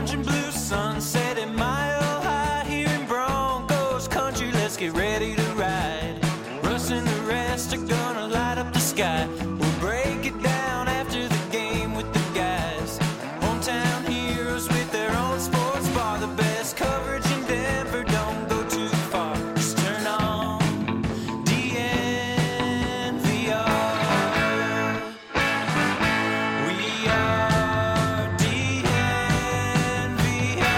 orange and blue sunset at Mile High here in Broncos country. Let's get ready to ride. Russ and the rest are gonna light up the sky. We'll break it down after the game with the guys. Hometown heroes with their own sports bar. The best coverage in Denver, don't go too far. Just turn on DNVR. We are DNVR.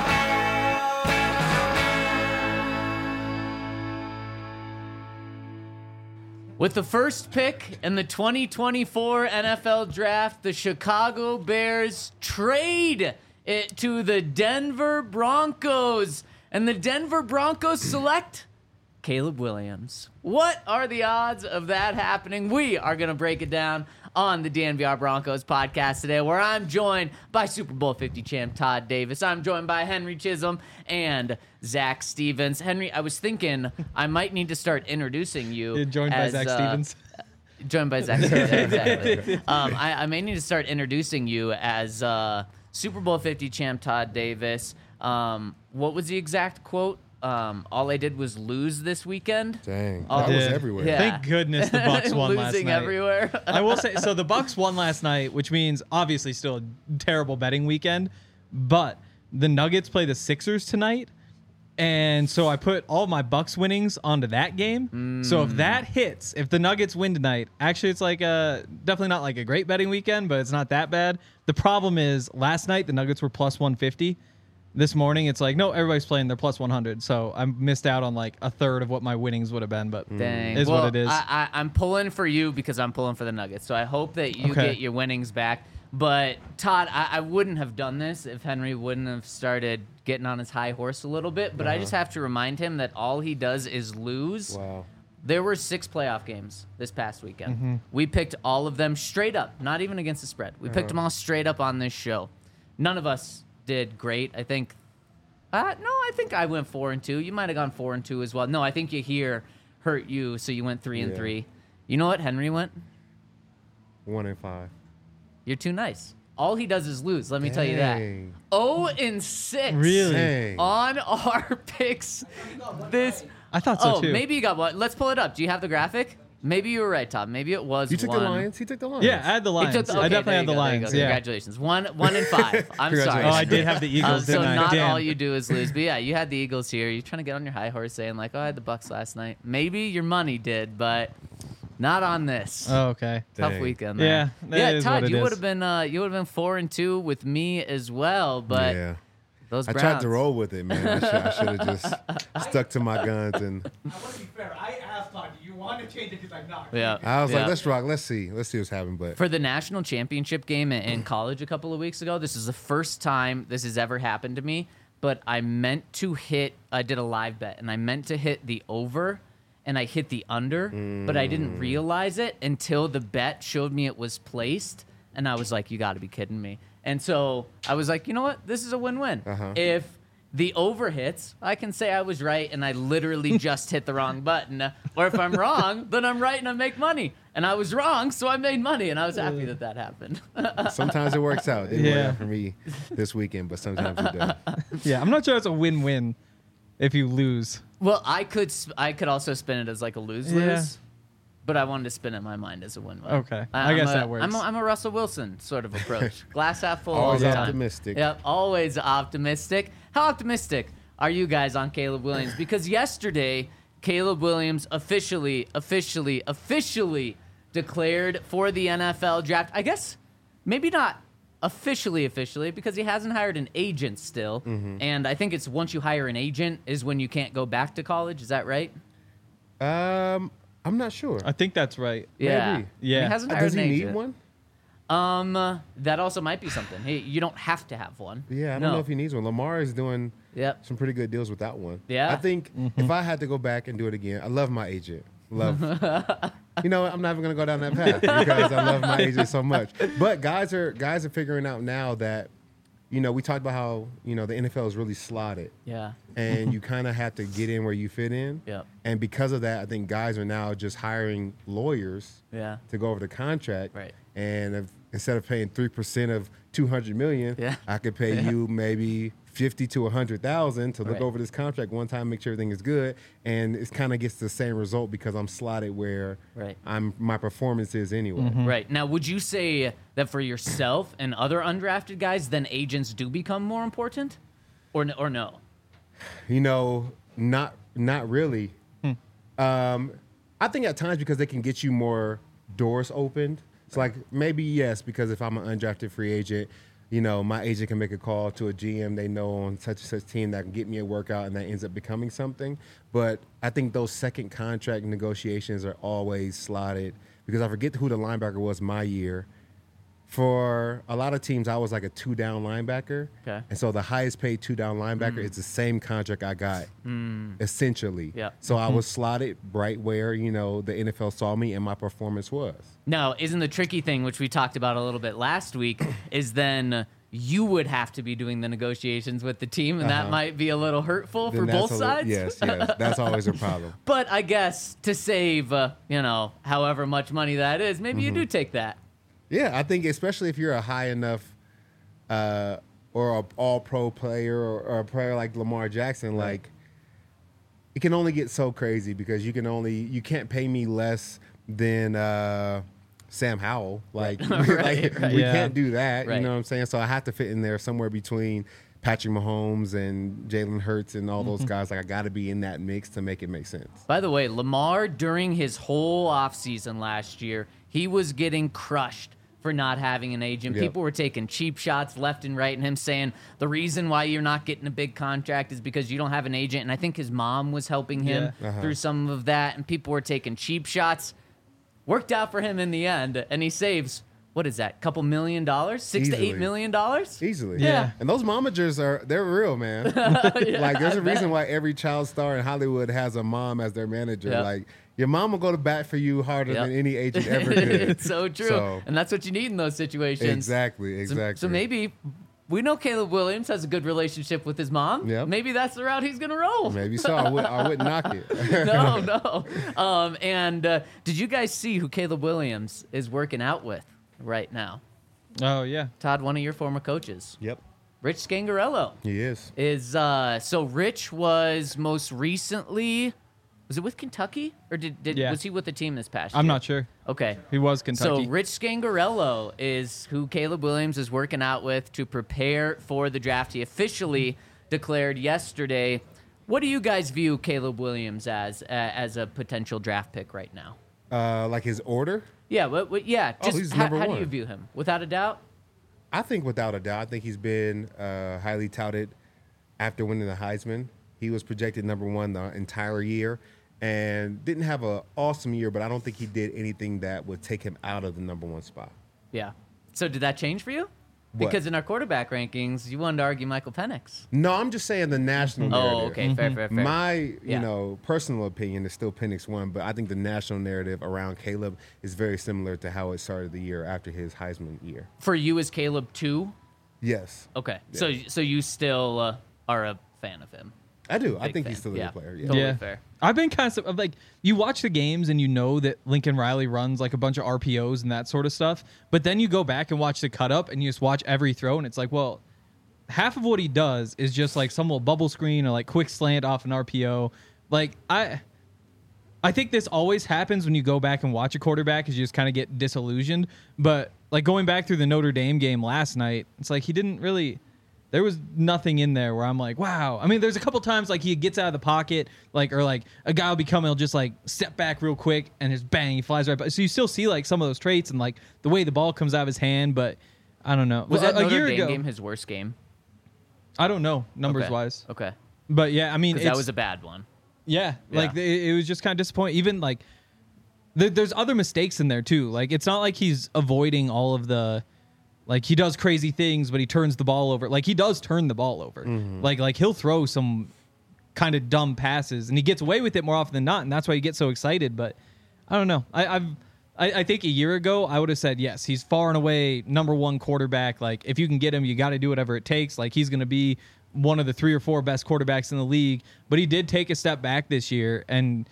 With the first pick in the 2024 NFL Draft, the Chicago Bears trade it to the Denver Broncos. And the Denver Broncos select Caleb Williams. What are the odds of that happening? We are going to break it down on the DNVR Broncos podcast today, where I'm joined by Super Bowl 50 champ Todd Davis. I'm joined by Henry Chisholm and Zach Stevens. Henry, I was thinking I might need to start introducing you. You're joined as, by Zach Stevens. Joined by Zach Stevens, exactly. I may need to start introducing you as Super Bowl 50 champ Todd Davis. What was the exact quote? All I did was lose this weekend. Dang, Oh, that was yeah. everywhere. Yeah. Thank goodness the Bucks won last Losing night. everywhere. I will say, so the Bucks won last night, which means obviously still a terrible betting weekend, but the Nuggets play the Sixers tonight, and so I put all my Bucks winnings onto that game. So if that hits, if the Nuggets win tonight, actually it's like definitely not like a great betting weekend, but it's not that bad. The problem is last night the Nuggets were plus 150. This morning, it's like, no, everybody's playing. They're plus 100. So I missed out on like a third of what my winnings would have been, but Dang. is well, what it is. I'm pulling for you because I'm pulling for the Nuggets. So I hope that you get your winnings back. But Todd, I wouldn't have done this if Henry wouldn't have started getting on his high horse a little bit. But I just have to remind him that all he does is lose. Wow. There were 6 playoff games this past weekend. We picked all of them straight up, not even against the spread. We picked them all straight up on this show. None of us did great. I think I think I went 4-2. You might have gone 4-2 as well. No, I think Yahir hurt you, so you went 3-3. You know what Henry went? 1-5. You're too nice. All he does is lose. Let me tell you that. Dang. 0-6. Really? Dang. On our picks. This. I thought so too. Maybe you got one. Let's pull it up. Do you have the graphic? Maybe you were right, Tom. Maybe it was You took one. the Lions? He took the Lions. Yeah, I had the Lions. He took the- I okay, definitely there had you the go, there you Lions. go. Yeah. Congratulations. 1-5. I'm sorry. Oh, I did have the Eagles, So didn't I? not Damn. all you do is lose. But yeah, you had the Eagles here. You're trying to get on your high horse saying like, oh, I had the Bucks last night. Maybe your money did, but not on this. Oh, okay. Tough Dang. weekend. Yeah, There. that Yeah, is Todd, what it you is. would have been 4-2 with me as well, but Yeah. those I Browns. tried to roll with it, man. I should have just stuck to my guns. And I want to be fair. I asked Todd, do you want to change it? He's like, no. Yeah. I was Yeah. like, let's rock. Let's see what's happening. But For the national championship game in college a couple of weeks ago, this is the first time this has ever happened to me, but I did a live bet, and I meant to hit the over, and I hit the under, but I didn't realize it until the bet showed me it was placed, and I was like, you got to be kidding me. And so I was like, you know what? This is a win-win. If the over hits, I can say I was right and I literally just hit the wrong button. Or if I'm wrong, then I'm right and I make money. And I was wrong, so I made money, and I was happy that happened. sometimes it works out. It didn't work Yeah. out for me this weekend, but sometimes it does. Yeah, I'm not sure it's a win-win if you lose. Well, I could also spin it as like a lose-lose, Yeah. but I wanted to spin it in my mind as a win-win. Okay. I guess that works. I'm a Russell Wilson sort of approach. Glass half full Always all the time. optimistic. Yep, always optimistic. How optimistic are you guys on Caleb Williams? Because yesterday, Caleb Williams officially declared for the NFL draft. I guess maybe not officially because he hasn't hired an agent still. And I think it's once you hire an agent is when you can't go back to college. Is that right? I'm not sure. I think that's right. Yeah. Maybe. Yeah. He hasn't hired Does an he need agent. one? That also might be something. Hey, you don't have to have one. Yeah, I don't No. know if he needs one. Lamar is doing Yep. some pretty good deals without one. Yeah. I think if I had to go back and do it again, I love my agent. Love. You know, I'm never gonna go down that path because I love my agent so much. But guys are figuring out now that we talked about how, the NFL is really slotted. Yeah. And you kind of have to get in where you fit in. Yep. And because of that, I think guys are now just hiring lawyers Yeah. to go over the contract. Right. And instead of paying 3% of $200 million, Yeah. I could pay you maybe 50 to 100,000 to look Right. over this contract one time, make sure everything is good, and it kind of gets the same result because I'm slotted where Right. my performance is anyway. Right. Now, would you say that for yourself and other undrafted guys, then agents do become more important, or no? Not really. I think at times because they can get you more doors opened. It's like maybe yes, because if I'm an undrafted free agent, my agent can make a call to a GM they know on such and such team that can get me a workout, and that ends up becoming something. But I think those second contract negotiations are always slotted because I forget who the linebacker was my year. For a lot of teams, I was like a 2-down linebacker. Okay. And so the highest paid 2-down linebacker is the same contract I got, essentially. Yep. So I was slotted right where, the NFL saw me and my performance was. Now, isn't the tricky thing, which we talked about a little bit last week, is then you would have to be doing the negotiations with the team, and that might be a little hurtful for Then that's both sides. Yes, that's always a problem. But I guess to save, however much money that is, maybe you do take that. Yeah, I think especially if you're a high enough or an all-pro player or a player like Lamar Jackson, like it can only get so crazy because you can't pay me less than Sam Howell. Like, we can't do that. Right. You know what I'm saying? So I have to fit in there somewhere between Patrick Mahomes and Jalen Hurts and all those guys. Like I got to be in that mix to make it make sense. By the way, Lamar, during his whole offseason last year, he was getting crushed for not having an agent. Yep. People were taking cheap shots left and right, and him saying the reason why you're not getting a big contract is because you don't have an agent. And I think his mom was helping him through some of that, and people were taking cheap shots. Worked out for him in the end, and he saves, what is that, couple $1 million? $6 to Easily. $8 million? Easily. Yeah. And those momagers they're real, man. Like there's a reason why every child star in Hollywood has a mom as their manager. Yep. Like your mom will go to bat for you harder Yep. than any agent ever could. It's so true. And that's what you need in those situations. Exactly. So maybe we know Caleb Williams has a good relationship with his mom. Yep. Maybe that's the route he's going to roll. Maybe so. I wouldn't knock it. No. And did you guys see who Caleb Williams is working out with right now? Oh, yeah. Todd, one of your former coaches. Yep. Rich Scangarello He is. so Rich was most recently, was it with Kentucky or was he with the team this past year? I'm not sure. Okay. He was Kentucky. So Rich Scangarello is who Caleb Williams is working out with to prepare for the draft. He officially declared yesterday. What do you guys view Caleb Williams as a potential draft pick right now? Like his order? Yeah, yeah. Just he's how number do one. you view him? Without a doubt. I think without a doubt. I think he's been highly touted after winning the Heisman. He was projected number one the entire year and didn't have an awesome year, but I don't think he did anything that would take him out of the number one spot. Yeah. So did that change for you? What? Because in our quarterback rankings, you wanted to argue Michael Penix. No, I'm just saying the national narrative. Oh, okay. Fair. My, Yeah. personal opinion is still Penix won, but I think the national narrative around Caleb is very similar to how it started the year after his Heisman year. For you, is Caleb 2? Yes, Okay. Yeah. So you still are a fan of him. I do. I Big think fan. he's still a Yeah. good player. Yeah. Totally fair. I've been kind of like, you watch the games and you know that Lincoln Riley runs like a bunch of RPOs and that sort of stuff. But then you go back and watch the cut up and you just watch every throw and it's like, well, half of what he does is just like some little bubble screen or like quick slant off an RPO. Like I think this always happens when you go back and watch a quarterback is you just kind of get disillusioned. But like going back through the Notre Dame game last night, it's like he didn't really. There was nothing in there where I'm like, wow. I mean, there's a couple times like he gets out of the pocket, like or like a guy will be coming, he'll just like step back real quick and just bang, he flies right by. So you still see like some of those traits and like the way the ball comes out of his hand, but I don't know. Was that a Notre year Dame ago? game his worst game? I don't know numbers Okay. wise, Okay. but yeah, I mean, Because that it's- was a bad one. yeah, Yeah. like it was just kind of disappointing. Even like there's other mistakes in there too. Like it's not like he's avoiding all of the. Like he does crazy things, but he turns the ball over. Like he does turn the ball over. Like he'll throw some kind of dumb passes, and he gets away with it more often than not, and that's why you get so excited. But I don't know. I think a year ago, I would have said, yes, he's far and away number one quarterback. Like, if you can get him, you got to do whatever it takes. Like, he's going to be one of the 3 or 4 best quarterbacks in the league. But he did take a step back this year. And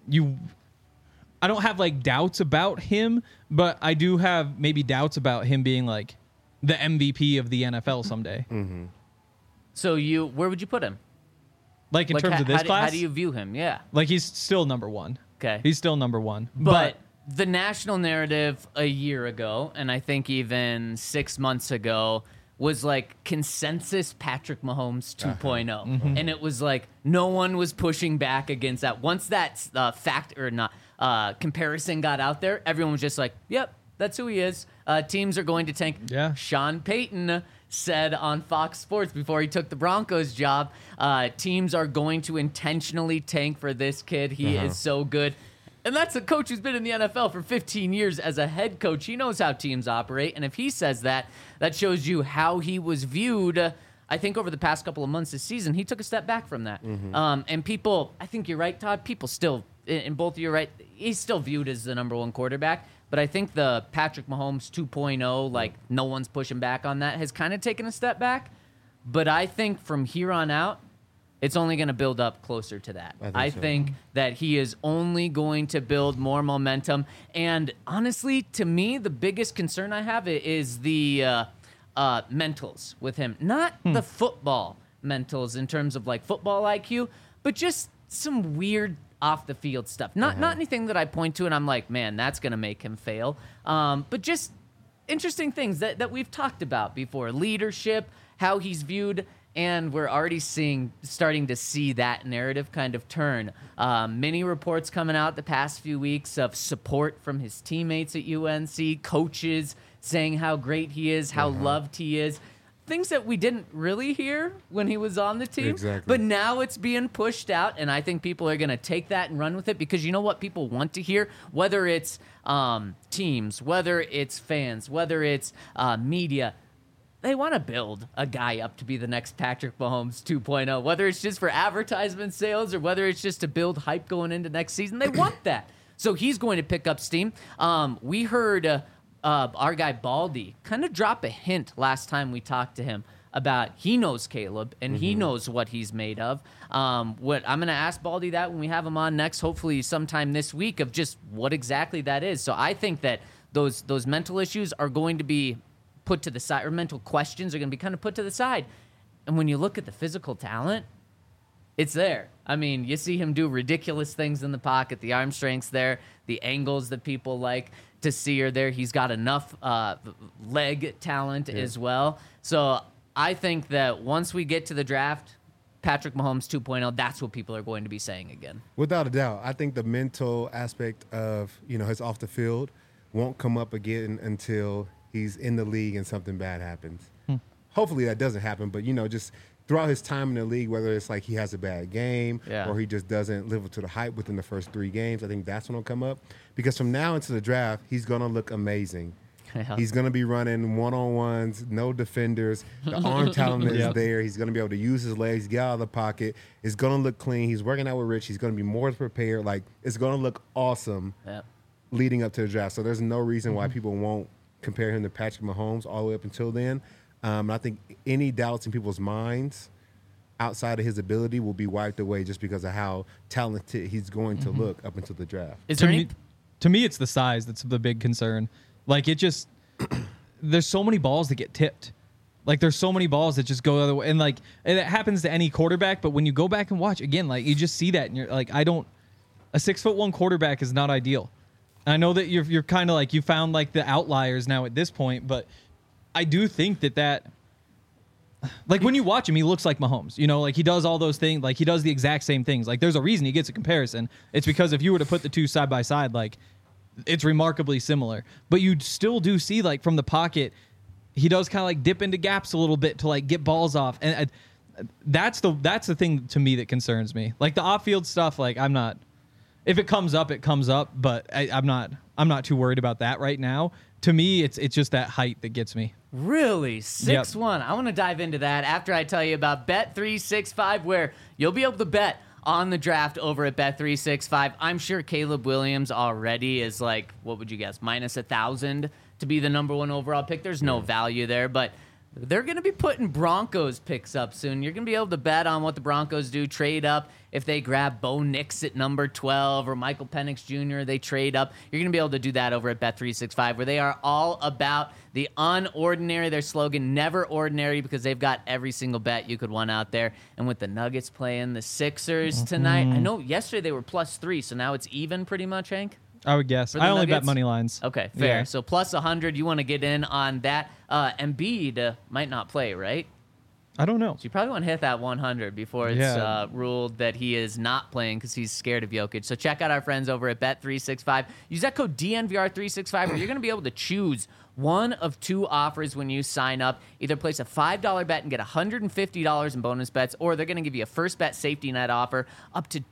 I don't have, like, doubts about him, but I do have maybe doubts about him being, like, the MVP of the NFL someday. Mm-hmm. So where would you put him? Like, in terms of this class? How do you view him? Yeah. Like, he's still number one. Okay. He's still number one. But the national narrative a year ago, and I think even 6 months ago, was like consensus Patrick Mahomes 2.0. And it was like no one was pushing back against that. Once that comparison got out there, everyone was just like, yep, that's who he is. Teams are going to tank. Yeah. Sean Payton said on Fox Sports before he took the Broncos job, teams are going to intentionally tank for this kid. He is so good. And that's a coach who's been in the NFL for 15 years as a head coach. He knows how teams operate. And if he says that, that shows you how he was viewed. I think over the past couple of months this season, he took a step back from that. And people, I think you're right, Todd. People still, and both of you are right, he's still viewed as the number one quarterback. But I think the Patrick Mahomes 2.0, like no one's pushing back on that, has kind of taken a step back. But I think from here on out, it's only going to build up closer to that. I think that he is only going to build more momentum. And honestly, to me, the biggest concern I have is the mentals with him. Not the football mentals in terms of like football IQ, but just some weird off the field stuff. Not anything that I point to and I'm like, man, that's going to make him fail. But just interesting things that we've talked about before. Leadership, how he's viewed. And we're already starting to see that narrative kind of turn. Many reports coming out the past few weeks of support from his teammates at UNC, coaches saying how great he is, how loved he is. Things that we didn't really hear when he was on the team. Exactly. But now it's being pushed out, and I think people are going to take that and run with it because you know what people want to hear? Whether it's teams, whether it's fans, whether it's media, they want to build a guy up to be the next Patrick Mahomes 2.0, whether it's just for advertisement sales or whether it's just to build hype going into next season. They want that. So he's going to pick up steam. We heard our guy Baldy kind of drop a hint last time we talked to him about he knows Caleb and he knows what he's made of. What I'm going to ask Baldy that when we have him on next, hopefully sometime this week, of just what exactly that is. So I think that those mental issues are going to be put to the side, or mental questions are going to be kind of put to the side. And when you look at the physical talent, it's there. I mean, you see him do ridiculous things in the pocket. The arm strength's there. The angles that people like to see are there. He's got enough leg talent as well. So I think that once we get to the draft, Patrick Mahomes 2.0, that's what people are going to be saying again. Without a doubt. I think the mental aspect of, his off the field won't come up again until he's in the league and something bad happens. Hopefully that doesn't happen, but, just throughout his time in the league, whether it's like he has a bad game or he just doesn't live up to the hype within the first 3 games, I think that's when it'll come up. Because from now into the draft, he's going to look amazing. He's going to be running one-on-ones, no defenders. The arm talent is there. He's going to be able to use his legs, get out of the pocket. It's going to look clean. He's working out with Rich. He's going to be more prepared. Like, it's going to look awesome leading up to the draft. So there's no reason why people won't compare him to Patrick Mahomes all the way up until then. I think any doubts in people's minds outside of his ability will be wiped away just because of how talented he's going to look up until the draft. To me, it's the size that's the big concern. Like, it just there's so many balls that get tipped. Like, there's so many balls that just go the other way. And, like, it happens to any quarterback. But when you go back and watch, again, like, you just see that. And you're like, a 6'1" quarterback is not ideal. I know that you're kind of like, you found like the outliers now at this point, but I do think that like when you watch him, he looks like Mahomes, like he does all those things, like he does the exact same things. Like there's a reason he gets a comparison. It's because if you were to put the two side by side, like it's remarkably similar, but you still do see like from the pocket, he does kind of like dip into gaps a little bit to like get balls off. And that's the thing to me that concerns me. Like the off field stuff, like if it comes up, it comes up, but I'm not too worried about that right now. To me, it's just that height that gets me. Really? 6'1". I want to dive into that after I tell you about Bet365, where you'll be able to bet on the draft over at Bet365. I'm sure Caleb Williams already is like, what would you guess, minus 1,000 to be the number 1 overall pick. There's no value there, but they're going to be putting Broncos picks up soon. You're going to be able to bet on what the Broncos do, trade up. If they grab Bo Nix at number 12 or Michael Penix Jr., they trade up. You're going to be able to do that over at Bet365, where they are all about the unordinary. Their slogan, never ordinary, because they've got every single bet you could want out there. And with the Nuggets playing the Sixers tonight, I know yesterday they were +3, so now it's even pretty much, Hank? I would guess. For the I only bet Nuggets? money lines. Okay, fair. Yeah. So plus 100, you want to get in on that. Embiid might not play, right? I don't know. So you probably want to hit that 100 before it's Yeah. ruled that he is not playing because he's scared of Jokic. So check out our friends over at Bet365. Use that code DNVR365 where you're going to be able to choose one of 2 offers when you sign up. Either place a $5 bet and get $150 in bonus bets, or they're going to give you a first bet safety net offer up to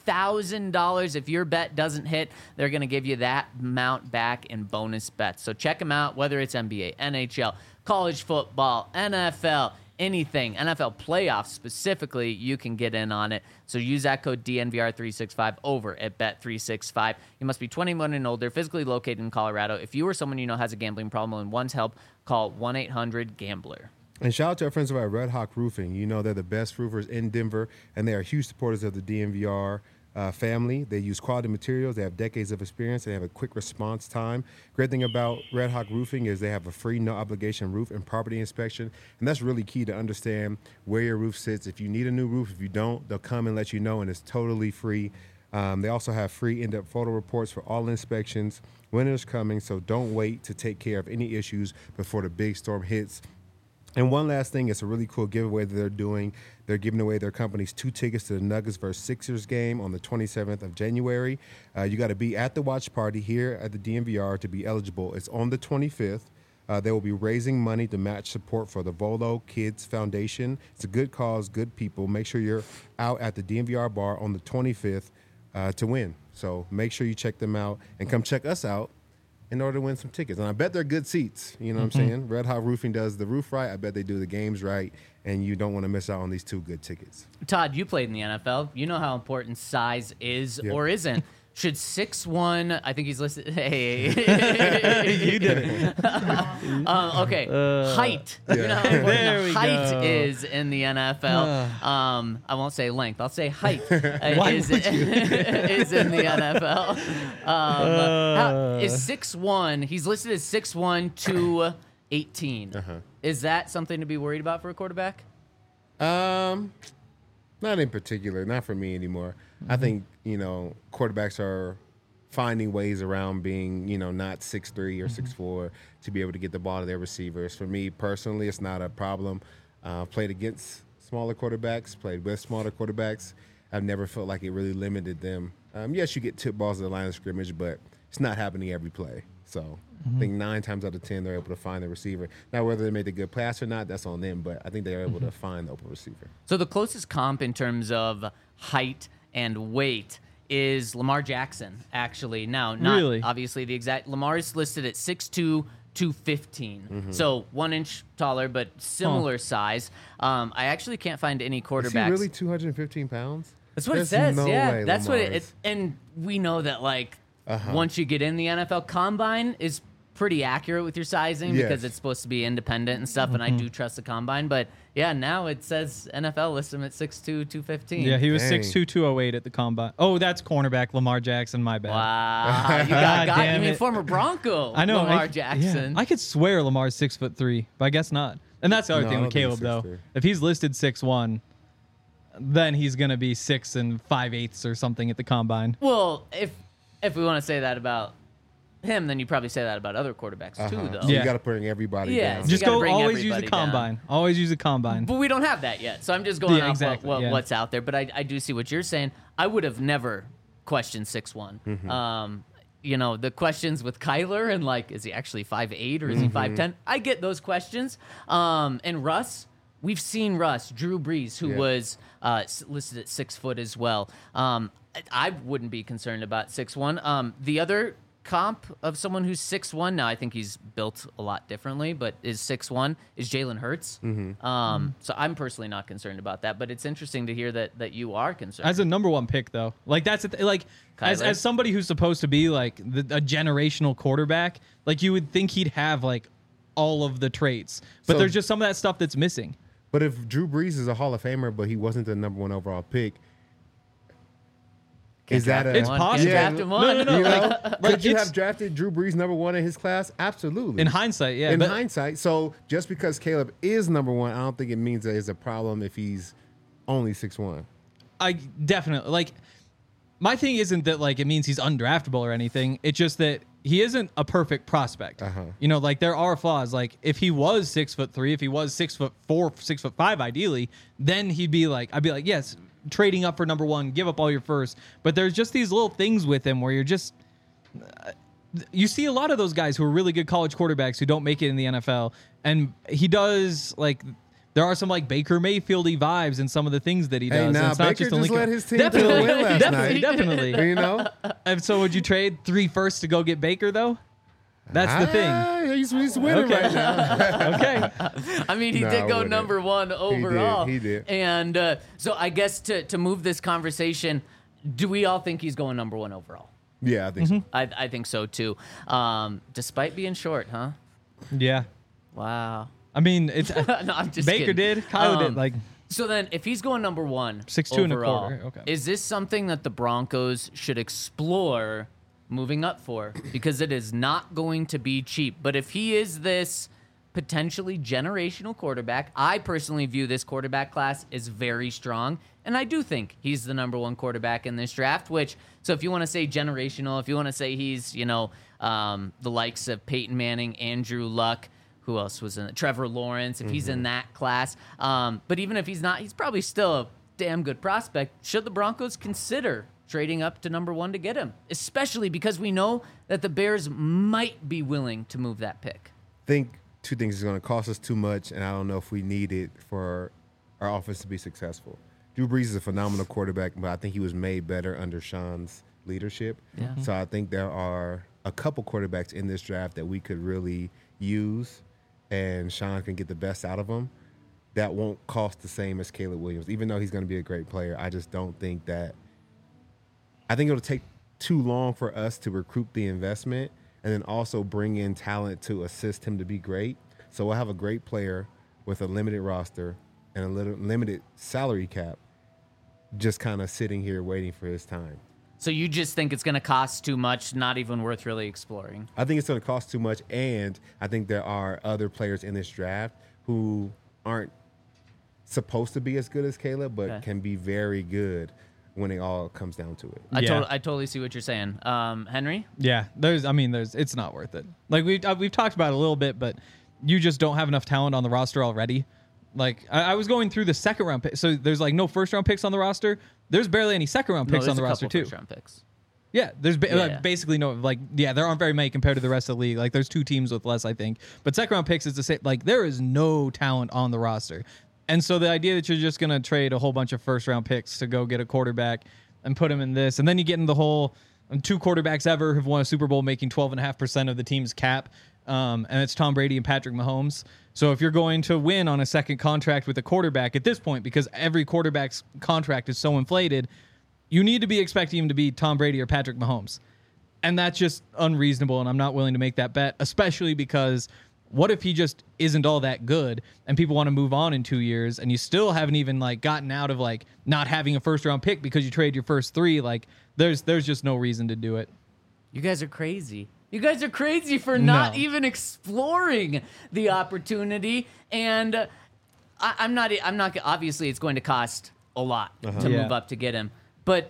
$2,000. If your bet doesn't hit, they're going to give you that amount back in bonus bets. So check them out, whether it's NBA, NHL, college football, NFL, anything, NFL playoffs specifically, you can get in on it. So use that code DNVR365 over at Bet365. You must be 21 and older, physically located in Colorado. If you or someone you know has a gambling problem and wants help, call 1-800-GAMBLER. And shout out to our friends over at Red Hawk Roofing. You know they're the best roofers in Denver, and they are huge supporters of the DNVR family. They use quality materials. They have decades of experience. They have a quick response time. Great thing about Red Hawk Roofing is they have a free, no-obligation roof and property inspection, and that's really key to understand where your roof sits. If you need a new roof, if you don't, they'll come and let you know, and it's totally free. They also have free in-depth photo reports for all inspections. Winter's coming, so don't wait to take care of any issues before the big storm hits. And one last thing, it's a really cool giveaway that they're doing. They're giving away their company's 2 tickets to the Nuggets vs. Sixers game on the 27th of January. You got to be at the watch party here at the DNVR to be eligible. It's on the 25th. They will be raising money to match support for the Volo Kids Foundation. It's a good cause, good people. Make sure you're out at the DNVR bar on the 25th to win. So make sure you check them out and come check us out in order to win some tickets. And I bet they're good seats. You know what I'm saying? Red Hot Roofing does the roof right. I bet they do the games right. And you don't want to miss out on these 2 good tickets. Todd, you played in the NFL. You know how important size is or isn't. Should 6'1", I think he's listed. Hey, You did it. okay, height. You know how There important we height go. is in the NFL. I won't say length. I'll say height is would you? is in the NFL. Is 6'1"? He's listed as 6'1", 218. Is that something to be worried about for a quarterback? Not in particular, not for me anymore. I think, quarterbacks are finding ways around being, not 6'3" or 6'4" to be able to get the ball to their receivers. For me personally, it's not a problem. Played against smaller quarterbacks, played with smaller quarterbacks. I've never felt like it really limited them. Yes, you get tip balls at the line of scrimmage, but it's not happening every play. So I think 9 times out of 10, they're able to find the receiver. Now, whether they made a good pass or not, that's on them, but I think they're able to find the open receiver. So the closest comp in terms of height and weight is Lamar Jackson, actually. Now, not Really? obviously the exact. Lamar is listed at 6'2", 215. So 1 inch taller, but similar size. I actually can't find any quarterbacks. Is he really 215 pounds? That's what There's it says. no Yeah, way that's what Lamar it. is. And we know that once you get in the NFL, combine is pretty accurate with your sizing because Yes. it's supposed to be independent and stuff. And I do trust the combine, but yeah, now it says NFL lists him at 6'2", 215. Yeah, he was Dang. 6'2", 208 at the combine. Oh, that's cornerback Lamar Jackson. My bad. Wow, you God got you damn mean it. former Bronco I know. Lamar I, Jackson. Yeah, I could swear Lamar's 6'3", but I guess not. And that's the other No, thing I with don't think Caleb, he's though. 6'3". If he's listed 6'1", then he's gonna be 6 5/8 or something at the combine. Well, if we want to say that about him, then you probably say that about other quarterbacks too, though. So Yeah. you got to bring everybody Yeah, down. so Just gotta go. bring Always use a everybody down. combine. Always use a combine. But we don't have that yet, so I'm just going Yeah, off exactly, yeah. what's out there. But I do see what you're saying. I would have never questioned 6'1". The questions with Kyler and is he actually 5'8" or is he 5'10"? I get those questions. And Russ, we've seen Russ, Drew Brees, who was listed at 6 foot as well. I wouldn't be concerned about 6'1". The other comp of someone who's 6'1". Now, I think he's built a lot differently, but is 6'1", is Jalen Hurts. So I'm personally not concerned about that, but it's interesting to hear that you are concerned. As a number one pick, though, like that's as somebody who's supposed to be like a generational quarterback, like you would think he'd have like all of the traits, but So- there's just some of that stuff that's missing. But if Drew Brees is a Hall of Famer, but he wasn't the number one overall pick, is that It's possible. Draft him one. No. You know, Like, could you it's- have drafted Drew Brees number one in his class? Absolutely. In hindsight, yeah. In but hindsight, so just because Caleb is number one, I don't think it means that it's a problem if he's only 6'1". I definitely like. My thing isn't that like it means he's undraftable or anything. It's just that he isn't a perfect prospect. You know, like there are flaws. Like if he was 6'3", if he was 6'4", 6'5", ideally, then he'd be like, I'd be like, yes, trading up for number one, give up all your first. But there's just these little things with him where you're just. You see a lot of those guys who are really good college quarterbacks who don't make it in the NFL, and he does like. There are some like Baker Mayfield-y vibes in some of the things that he does. Hey, and now it's not Baker just a just Lincoln. led his team to the win last night. Definitely. You know, And so would you trade 3 firsts to go get Baker though? That's the thing. He's winning Okay. right now. Okay. I mean, he No, did I go wouldn't. number one overall. He did. And so I guess to move this conversation, do we all think he's going number one overall? Yeah, I think so. I think so too. Despite being short, huh? Yeah. Wow. I mean, it's No, I'm just Baker kidding. did, Kyle did. Like So then, if he's going number one, 6'2" and a overall, quarter, okay. is this something that the Broncos should explore moving up for? Because it is not going to be cheap. But if he is this potentially generational quarterback, I personally view this quarterback class as very strong. And I do think he's the number one quarterback in this draft, so if you want to say generational, if you want to say he's, the likes of Peyton Manning, Andrew Luck, who else was in it? Trevor Lawrence, if he's in that class. But even if he's not, he's probably still a damn good prospect. Should the Broncos consider trading up to number one to get him? Especially because we know that the Bears might be willing to move that pick. I think two things is going to cost us too much, and I don't know if we need it for our offense to be successful. Drew Brees is a phenomenal quarterback, but I think he was made better under Sean's leadership. Yeah. So I think there are a couple quarterbacks in this draft that we could really use, and Sean can get the best out of them. That won't cost the same as Caleb Williams, even though he's going to be a great player. I just don't think that. I think it'll take too long for us to recruit the investment and then also bring in talent to assist him to be great. So we'll have a great player with a limited roster and a limited salary cap, just kind of sitting here waiting for his time. So you just think it's going to cost too much, not even worth really exploring? I think it's going to cost too much, and I think there are other players in this draft who aren't supposed to be as good as Caleb, but Okay. can be very good when it all comes down to it. I Yeah. totally see what you're saying. Henry? yeah, it's not worth it. Like we've talked about it a little bit, but you just don't have enough talent on the roster already. Like I was going through the second round pick, so there's like no first round picks on the roster. There's barely any second round picks No, on the there's a roster couple too. first-round picks. Yeah, there's Yeah. basically no there aren't very many compared to the rest of the league. Like there's 2 teams with less, I think. But second round picks is the same. Like there is no talent on the roster, and so the idea that you're just gonna trade a whole bunch of first round picks to go get a quarterback and put him in this, and then you get in the whole 2 quarterbacks ever have won a Super Bowl making 12.5% of the team's cap, and it's Tom Brady and Patrick Mahomes. So if you're going to win on a second contract with a quarterback at this point, because every quarterback's contract is so inflated, you need to be expecting him to be Tom Brady or Patrick Mahomes. And that's just unreasonable, and I'm not willing to make that bet, especially because what if he just isn't all that good and people want to move on in 2 years and you still haven't even like gotten out of like not having a first round pick because you trade your first 3? Like there's just no reason to do it. You guys are crazy. You guys are crazy for not No. even exploring the opportunity. And I'm not, obviously it's going to cost a lot to Yeah. move up to get him. But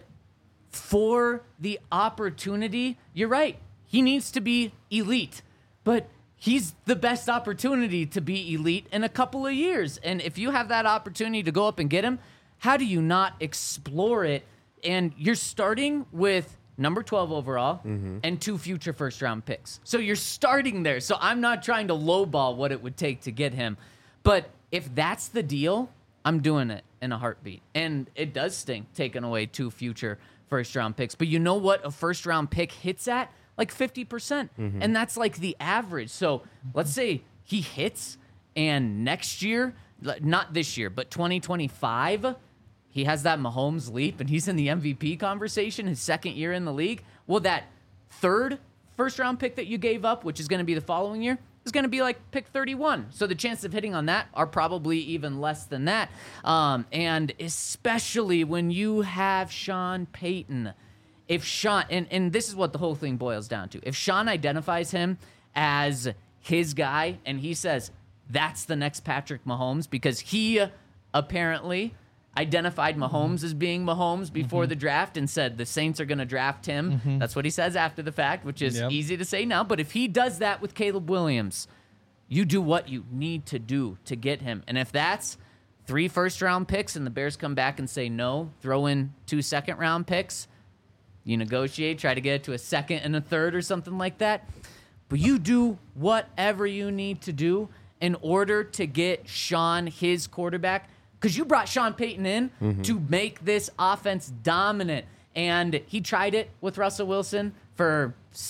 for the opportunity, you're right. He needs to be elite. But he's the best opportunity to be elite in a couple of years. And if you have that opportunity to go up and get him, how do you not explore it? And you're starting with number 12 overall and 2 future first round picks. So you're starting there. So I'm not trying to lowball what it would take to get him. But if that's the deal, I'm doing it in a heartbeat. And it does sting taking away 2 future first round picks. But you know what a first round pick hits at? like 50%. And that's like the average. So let's say he hits and next year, not this year, but 2025, he has that Mahomes leap and he's in the MVP conversation, his second year in the league. Well, that third first-round pick that you gave up, which is going to be the following year, is going to be like pick 31. So the chances of hitting on that are probably even less than that. And especially when you have Sean Payton. If Sean, and this is what the whole thing boils down to. If Sean identifies him as his guy and he says, that's the next Patrick Mahomes, because he apparently identified Mahomes as being Mahomes before the draft and said the Saints are going to draft him. That's what he says after the fact, which is easy to say now. But if he does that with Caleb Williams, you do what you need to do to get him. And if that's 3 first-round picks and the Bears come back and say no, throw in 2 second-round picks, you negotiate, try to get it to a second and a third or something like that. But you do whatever you need to do in order to get Sean his quarterback, because you brought Sean Payton in to make this offense dominant. And he tried it with Russell Wilson for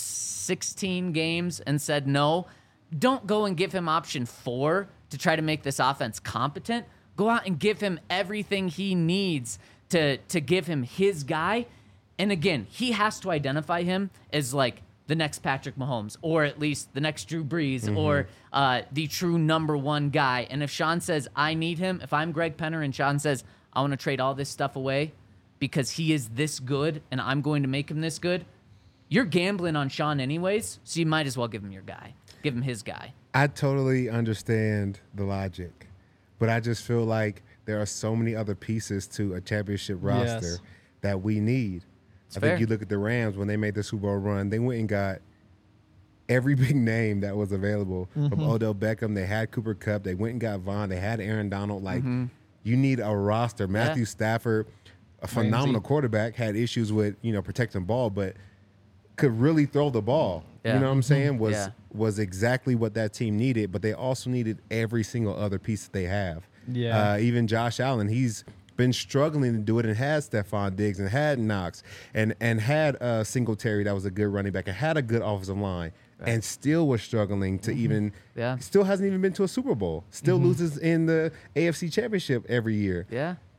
16 games and said no. Don't go and give him option 4 to try to make this offense competent. Go out and give him everything he needs to give him his guy. And again, he has to identify him as like the next Patrick Mahomes, or at least the next Drew Brees, or the true number 1 guy. And if Sean says, I need him, if I'm Greg Penner and Sean says, I want to trade all this stuff away because he is this good and I'm going to make him this good, you're gambling on Sean anyways, so you might as well give him your guy. Give him his guy. I totally understand the logic, but I just feel like there are so many other pieces to a championship roster that we need. I think you look at the Rams when they made the Super Bowl run, they went and got every big name that was available from Odell Beckham. They had Cooper Kupp. They went and got Vaughn. They had Aaron Donald. Like, you need a roster. Matthew Stafford, a phenomenal quarterback, had issues with, protecting ball, but could really throw the ball. You know what I'm saying? Was exactly what that team needed, but they also needed every single other piece that they have. Even Josh Allen, he's been struggling to do it and had Stephon Diggs and had Knox and had Singletary that was a good running back and had a good offensive line and still was struggling to even still hasn't even been to a Super Bowl. Still loses in the AFC Championship every year.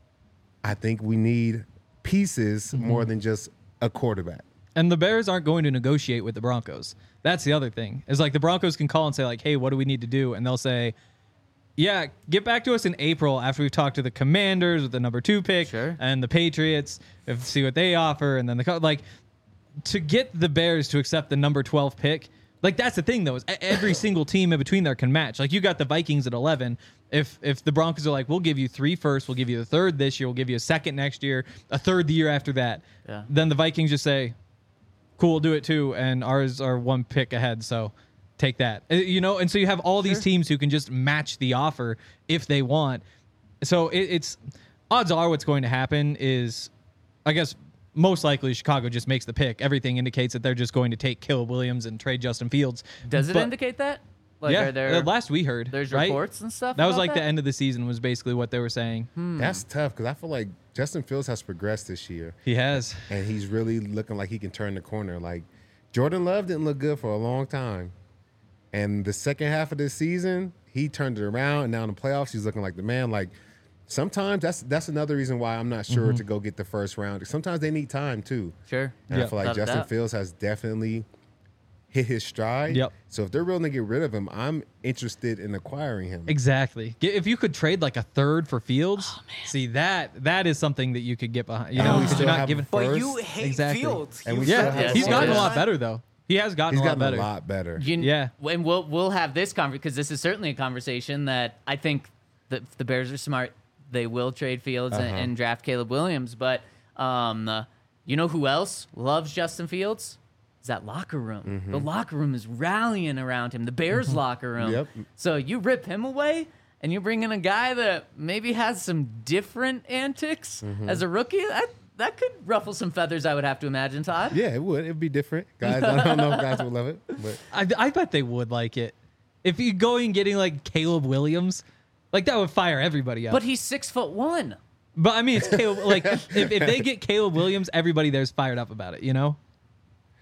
I think we need pieces more than just a quarterback. And the Bears aren't going to negotiate with the Broncos. That's the other thing. It's like the Broncos can call and say like, hey, what do we need to do? And they'll say, yeah, get back to us in April after we've talked to the Commanders with the number 2 pick and the Patriots, see what they offer, and then to get the Bears to accept the number 12 pick. Like, that's the thing though, is every single team in between there can match. Like, you got the Vikings at 11. If the Broncos are like, we'll give you 3 firsts, we'll give you the 3rd this year, we'll give you a 2nd next year, a 3rd the year after that. Then the Vikings just say, cool, we'll do it too, and ours are 1 pick ahead, so take that. And so you have all these teams who can just match the offer if they want. So it's odds are what's going to happen is, I guess, most likely Chicago just makes the pick. Everything indicates that they're just going to take Caleb Williams and trade Justin Fields. Does it indicate that? Like, yeah, last we heard. There's reports and stuff. That was like the end of the season was basically what they were saying. That's tough because I feel like Justin Fields has progressed this year. He has. And he's really looking like he can turn the corner. Like, Jordan Love didn't look good for a long time. And the second half of this season, he turned it around. And now in the playoffs, he's looking like the man. Like, sometimes that's another reason why I'm not sure to go get the first round. Sometimes they need time, too. Sure. And I feel like Justin Fields has definitely hit his stride. So if they're willing to get rid of him, I'm interested in acquiring him. Exactly. If you could trade like a 3rd for Fields, see that is something that you could get behind. You know, we still not have giving. But you hate Fields. And we he's gotten a lot better though. He has gotten a lot better. And we'll have this conversation because this is certainly a conversation that I think the Bears are smart. They will trade Fields and draft Caleb Williams. But you know who else loves Justin Fields? Is that locker room. The locker room is rallying around him. The Bears locker room. So you rip him away and you bring in a guy that maybe has some different antics as a rookie. That could ruffle some feathers, I would have to imagine, Todd. Yeah, it would. It'd be different. Guys, I don't know if guys would love it. But I bet they would like it. If you go and getting like Caleb Williams, like that would fire everybody up. But he's 6'1". But I mean, it's Caleb. Like if they get Caleb Williams, everybody there's fired up about it. You know.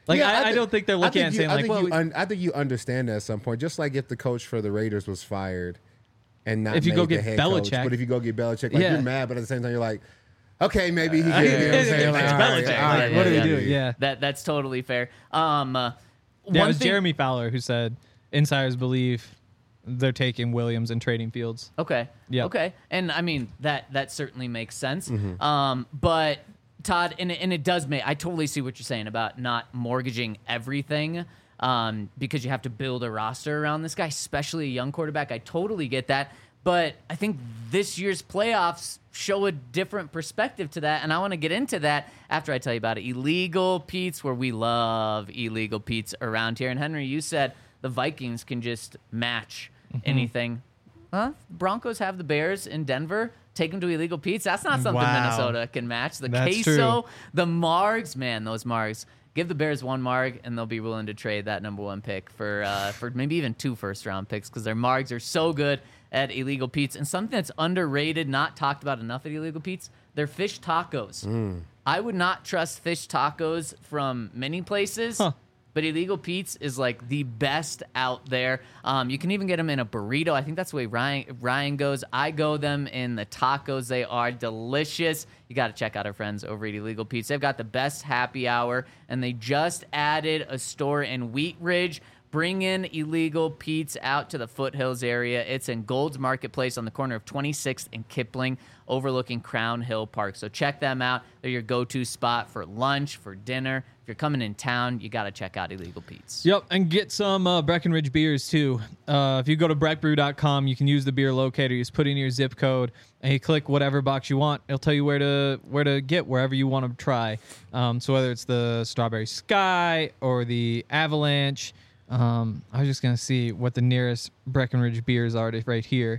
Like Yeah, I don't think they're looking at it saying like, well, I think you understand that at some point. Just like if the coach for the Raiders was fired and not If you made go the get head coach, Belichick. but if you go get Belichick, like Yeah. you're mad, but at the same time you're like, okay, maybe he can. You know what I'm saying? Like, It's all right, Belichick. all right, What are we yeah. doing? Yeah. That's totally fair. Yeah, it One was thing- Jeremy Fowler who said insiders believe they're taking Williams and trading Fields. Okay. Yep. Okay. And I mean that certainly makes sense. Mm-hmm. But Todd, and it does make. I totally see what you're saying about not mortgaging everything, because you have to build a roster around this guy, especially a young quarterback. I totally get that. But I think this year's playoffs show a different perspective to that, and I want to get into that after I tell you about it. Illegal Pete's, where we love Illegal Pete's around here. And Henry, you said the Vikings can just match anything. Huh? Broncos have the Bears in Denver. Take them to Illegal Pete's. That's not something Wow. Minnesota can match. The That's queso, true. the margs, man, those margs. Give the Bears one marg, and they'll be willing to trade that number one pick for maybe even 2 first-round picks because their margs are so good at Illegal Pete's. And something that's underrated, not talked about enough at Illegal Pete's, they're fish tacos. I would not trust fish tacos from many places. Huh. But Illegal Pete's is like the best out there. You can even get them in a burrito. I think that's the way Ryan goes. I go them in the tacos. They are delicious. You got to check out our friends over at Illegal Pete's. They've got the best happy hour, and they just added a store in Wheat Ridge. Bring in Illegal Pete's out to the Foothills area. It's in Gold's Marketplace on the corner of 26th and Kipling, overlooking Crown Hill Park. So check them out. They're your go-to spot for lunch, for dinner. If you're coming in town, you got to check out Illegal Pete's. Yep, and get some Breckenridge beers too. If you go to breckbrew.com, you can use the beer locator. You just put in your zip code and you click whatever box you want. It'll tell you where to get wherever you want to try. So whether it's the Strawberry Sky or the Avalanche, I was just gonna see what the nearest Breckenridge beers are right here.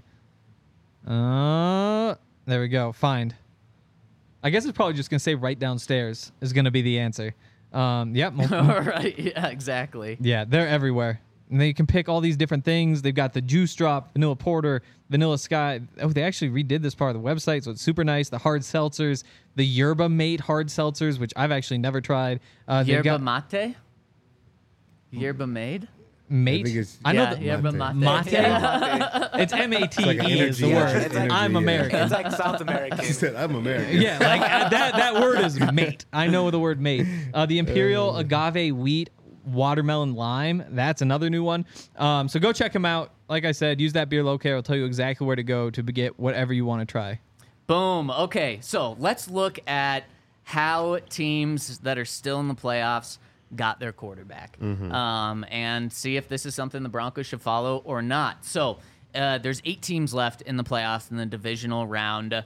There we go. Find. I guess it's probably just gonna say right downstairs is gonna be the answer. Yep. All right. Yeah, exactly. Yeah, they're everywhere. And they can pick all these different things. They've got the Juice Drop, Vanilla Porter, Vanilla Sky. Oh, they actually redid this part of the website, so it's super nice. The hard seltzers, the Yerba Mate hard seltzers, which I've actually never tried. They've Yerba got mate? Yerba made? Mate. I think it's- I know Yeah, the yerba mate. Mate? Yeah. It's M-A-T-E like an is the energy, word. yeah, it's energy, I'm yeah. American. It's like South American. He said, I'm American. Yeah, like that word is mate. I know the word mate. The Imperial Agave Wheat Watermelon Lime. That's another new one. So go check them out. Like I said, use that beer locator. I'll tell you exactly where to go to get whatever you want to try. Boom. Okay, so let's look at how teams that are still in the playoffs got their quarterback, and see if this is something the Broncos should follow or not. So there's 8 teams left in the playoffs in the divisional round.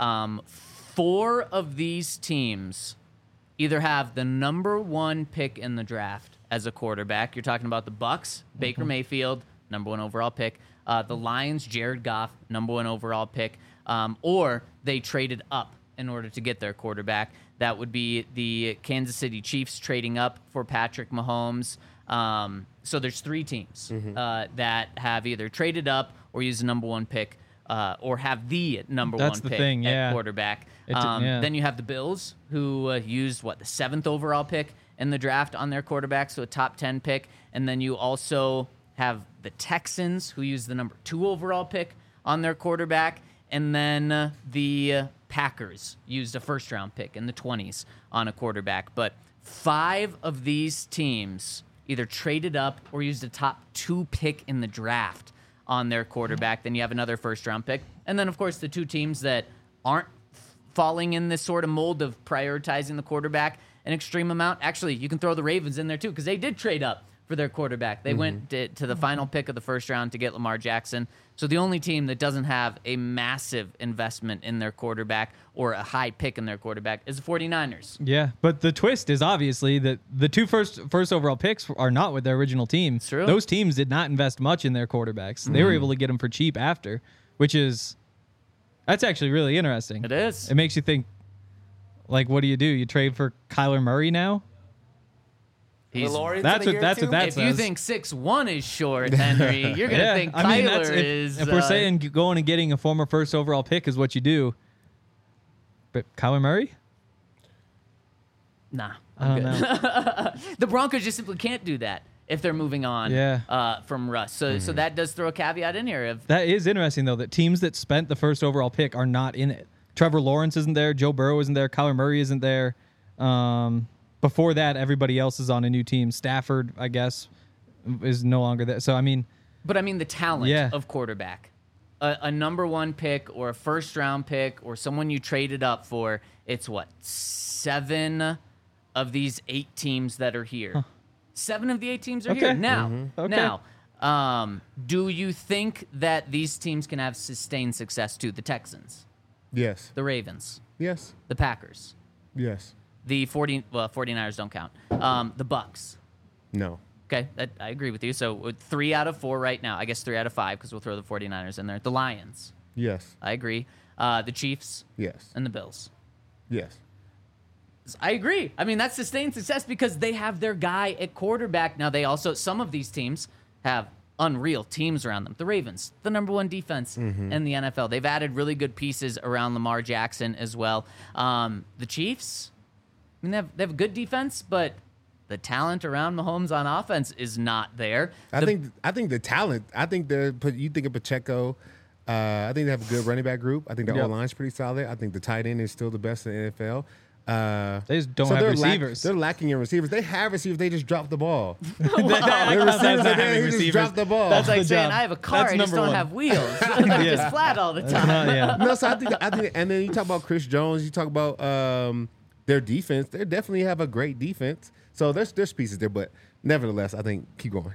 4 of these teams either have the number 1 pick in the draft as a quarterback. You're talking about the Bucks, Baker Mayfield, number 1 overall pick. The Lions, Jared Goff, number 1 overall pick. Or they traded up in order to get their quarterback. That would be the Kansas City Chiefs trading up for Patrick Mahomes. So there's 3 teams that have either traded up or used the number 1 pick, or have the number That's 1 the pick thing, at yeah. quarterback. Yeah. Then you have the Bills, who used, the 7th overall pick in the draft on their quarterback, so a top 10 pick. And then you also have the Texans, who used the number 2 overall pick on their quarterback. And then the Packers used a first-round pick in the 20s on a quarterback. But 5 of these teams either traded up or used a top 2 pick in the draft on their quarterback. Then you have another first-round pick. And then, of course, the 2 teams that aren't falling in this sort of mold of prioritizing the quarterback an extreme amount. Actually, you can throw the Ravens in there, too, because they did trade up for their quarterback. They went to the final pick of the first round to get Lamar Jackson. So the only team that doesn't have a massive investment in their quarterback or a high pick in their quarterback is the 49ers. Yeah, but the twist is obviously that the 2 first overall picks are not with their original team. True. Those teams did not invest much in their quarterbacks. They were able to get them for cheap after, that's actually really interesting. It is. It makes you think, like, what do? You trade for Kyler Murray now? He's- That's what that if you says. think 6'1" is short, Henry, you're going to think Kyler is... if we're saying going and getting a former first overall pick is what you do, but Kyler Murray? Nah. I don't know. The Broncos just simply can't do that if they're moving on from Russ. So that does throw a caveat in here. That is interesting, though, that teams that spent the first overall pick are not in it. Trevor Lawrence isn't there. Joe Burrow isn't there. Kyler Murray isn't there. Before that, everybody else is on a new team. Stafford, I guess, is no longer there. So, I mean... But, I mean, the talent of quarterback. A number one pick or a first-round pick or someone you traded up for, it's what, 7 of these 8 teams that are here. Huh. 7 of the 8 teams are here. Now, do you think that these teams can have sustained success too? The Texans? Yes. The Ravens? Yes. The Packers? Yes. The 49ers don't count. The Bucks? No. Okay, I agree with you. So 3 out of 4 right now. I guess 3 out of 5 because we'll throw the 49ers in there. The Lions? Yes. I agree. The Chiefs? Yes. And the Bills? Yes. I agree. I mean, that's sustained success because they have their guy at quarterback. Now, they also, some of these teams have unreal teams around them. The Ravens, the number 1 defense in the NFL. They've added really good pieces around Lamar Jackson as well. The Chiefs, I mean, they have a good defense, but the talent around Mahomes on offense is not there. I think the talent. I think you think of Pacheco. I think they have a good running back group. I think the O-line's pretty solid. I think the tight end is still the best in the NFL. They just don't have receivers. They're lacking in receivers. They have receivers. They just drop the ball. They just drop the ball. That's like saying I have a car. I just don't have wheels. They're just flat all the time. No, so I think, and then you talk about Chris Jones. You talk about their defense. They definitely have a great defense. So there's pieces there, but nevertheless, I think keep going.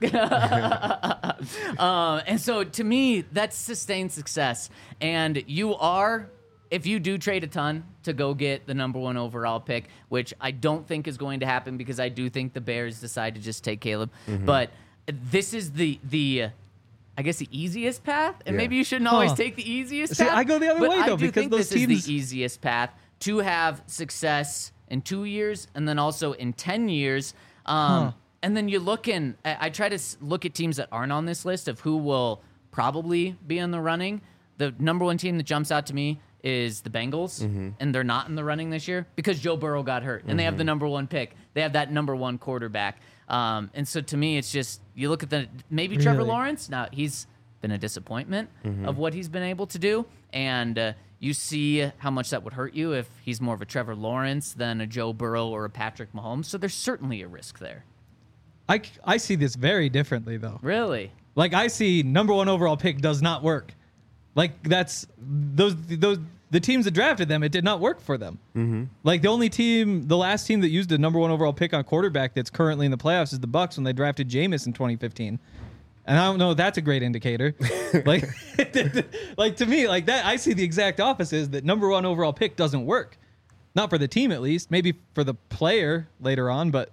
And so to me, that's sustained success. And if you do trade a ton to go get the number 1 overall pick, which I don't think is going to happen because I do think the Bears decide to just take Caleb. But this is the I guess the easiest path, and maybe you shouldn't always take the easiest path. See, I go the other way, though, because those teams... this is the easiest path to have success in 2 years and then also in 10 years. And then you look in, I try to look at teams that aren't on this list of who will probably be in the running. The number 1 team that jumps out to me is the Bengals, and they're not in the running this year because Joe Burrow got hurt, and they have the number 1 pick. They have that number 1 quarterback. And so to me, it's just, you look at maybe Trevor Lawrence. Now, he's been a disappointment of what he's been able to do, and you see how much that would hurt you if he's more of a Trevor Lawrence than a Joe Burrow or a Patrick Mahomes. So there's certainly a risk there. I see this very differently, though. Really? Like, I see number 1 overall pick does not work. Like, that's the teams that drafted them, it did not work for them. Like, the last team that used a number 1 overall pick on quarterback that's currently in the playoffs is the Bucks when they drafted Jameis in 2015. And I don't know if that's a great indicator. like to me, like that, I see the exact opposite, is that number 1 overall pick doesn't work. Not for the team, at least. Maybe for the player later on, but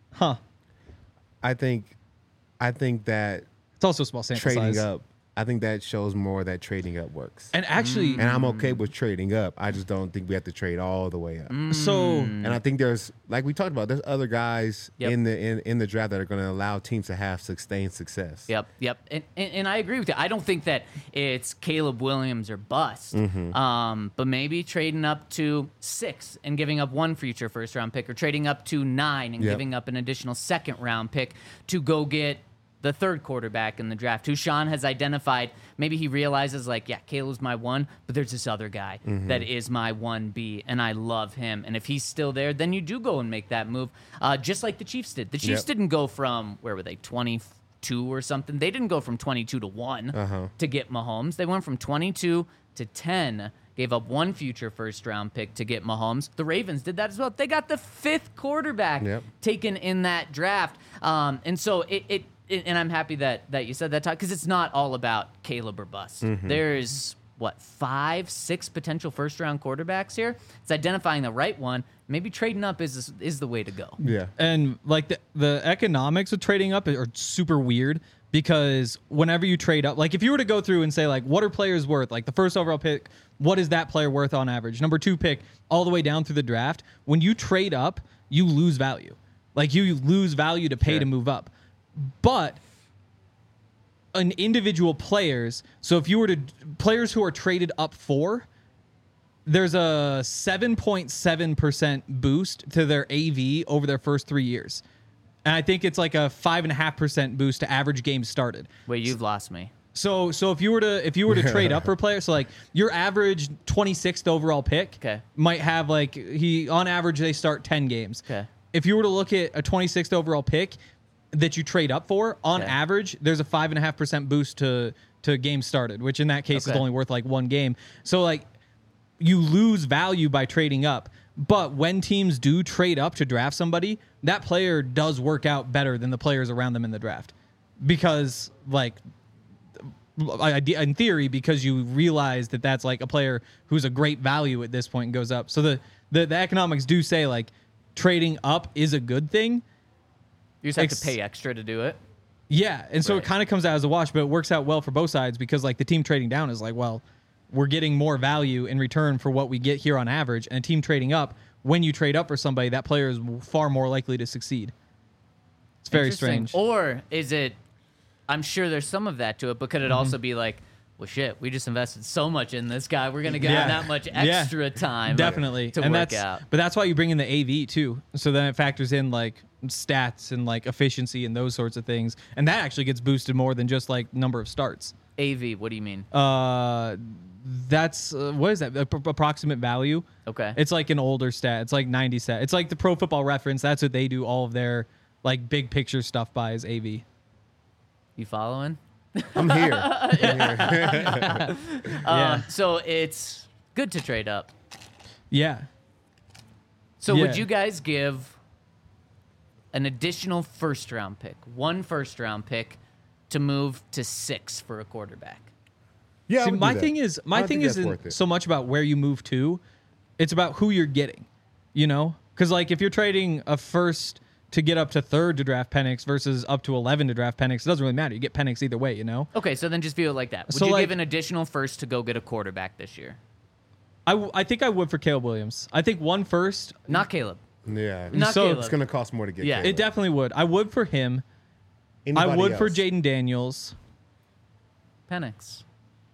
I think that it's also a small sample trading size. up. I think that shows more that trading up works. And actually, and I'm okay with trading up. I just don't think we have to trade all the way up. And I think there's, like we talked about, there's other guys in the draft that are going to allow teams to have sustained success. Yep. And I agree with you. I don't think that it's Caleb Williams or bust. But maybe trading up to 6 and giving up 1 future first round pick, or trading up to 9 and giving up an additional second round pick to go get the 3rd quarterback in the draft, who Sean has identified. Maybe he realizes, like, yeah, Caleb's my 1, but there's this other guy that is my 1B, and I love him. And if he's still there, then you do go and make that move, just like the Chiefs did. The Chiefs didn't go from, where were they, 22 or something? They didn't go from 22 to 1 to get Mahomes. They went from 22 to 10, gave up 1 future first-round pick to get Mahomes. The Ravens did that as well. They got the 5th quarterback taken in that draft. And so and I'm happy that you said that, Todd, because it's not all about Caleb or bust. There's, 5, 6 potential first-round quarterbacks here? It's identifying the right one. Maybe trading up is the way to go. Yeah. And, like, the economics of trading up are super weird, because whenever you trade up, like, if you were to go through and say, like, what are players worth? Like, the first overall pick, what is that player worth on average? Number 2 pick, all the way down through the draft. When you trade up, you lose value. Like, you lose value to pay to move up. But an individual players, so if you were to players who are traded up for, there's a 7.7% boost to their AV over their first 3 years. And I think it's like a 5.5% boost to average games started. Wait, you've lost me. So if you were to trade up for players, so like your average 26th overall pick Okay. might have like on average they start 10 games. Okay. If you were to look at a 26th overall pick that you trade up for, on Okay. average, there's a 5.5% boost to games started, which in that case is Okay. only worth like one game. So like you lose value by trading up. But when teams do trade up to draft somebody, that player does work out better than the players around them in the draft. Because like in theory, because you realize that that's like a player who's a great value at this point and goes up. So the economics do say like trading up is a good thing. You just have to pay extra to do it. Yeah, and so Right. it kind of comes out as a wash, but it works out well for both sides because like the team trading down is like, well, we're getting more value in return for what we get here on average, and a team trading up, when you trade up for somebody, that player is far more likely to succeed. It's very Interesting. strange. Or is it? I'm sure there's some of that to it, but could it Mm-hmm. also be like, well, shit, we just invested so much in this guy, we're gonna give Yeah. him that much Yeah. extra time, Definitely, to and work that's out. but that's why you bring in the AV too. So then it factors in like stats and like efficiency and those sorts of things, and that actually gets boosted more than just like number of starts. AV, what do you mean? That's what is that? Approximate value. Okay. It's like an older stat. It's like 90 stat. It's like the Pro Football Reference. That's what they do all of their like big picture stuff by is AV. You following? I'm here. Yeah. So it's good to trade up. Yeah. So Yeah. would you guys give an additional first round pick, one first round pick, to move to 6 for a quarterback? Yeah, I See, would do my that. thing is I don't think that's isn't worth it. so much about where you move to, it's about who you're getting. You know, because like if you're trading a first to get up to 3rd to draft Penix versus up to 11 to draft Penix, it doesn't really matter. You get Penix either way. You know. Okay, so then just view it like that. Would So, you like- give an additional first to go get a quarterback this year? I think I would for Caleb Williams. I think one first. Not Caleb. Yeah. Not So- Caleb. It's going to cost more to get Yeah. Caleb. It definitely would. I would for him. Anybody I would for else? Jaden Daniels. Penix.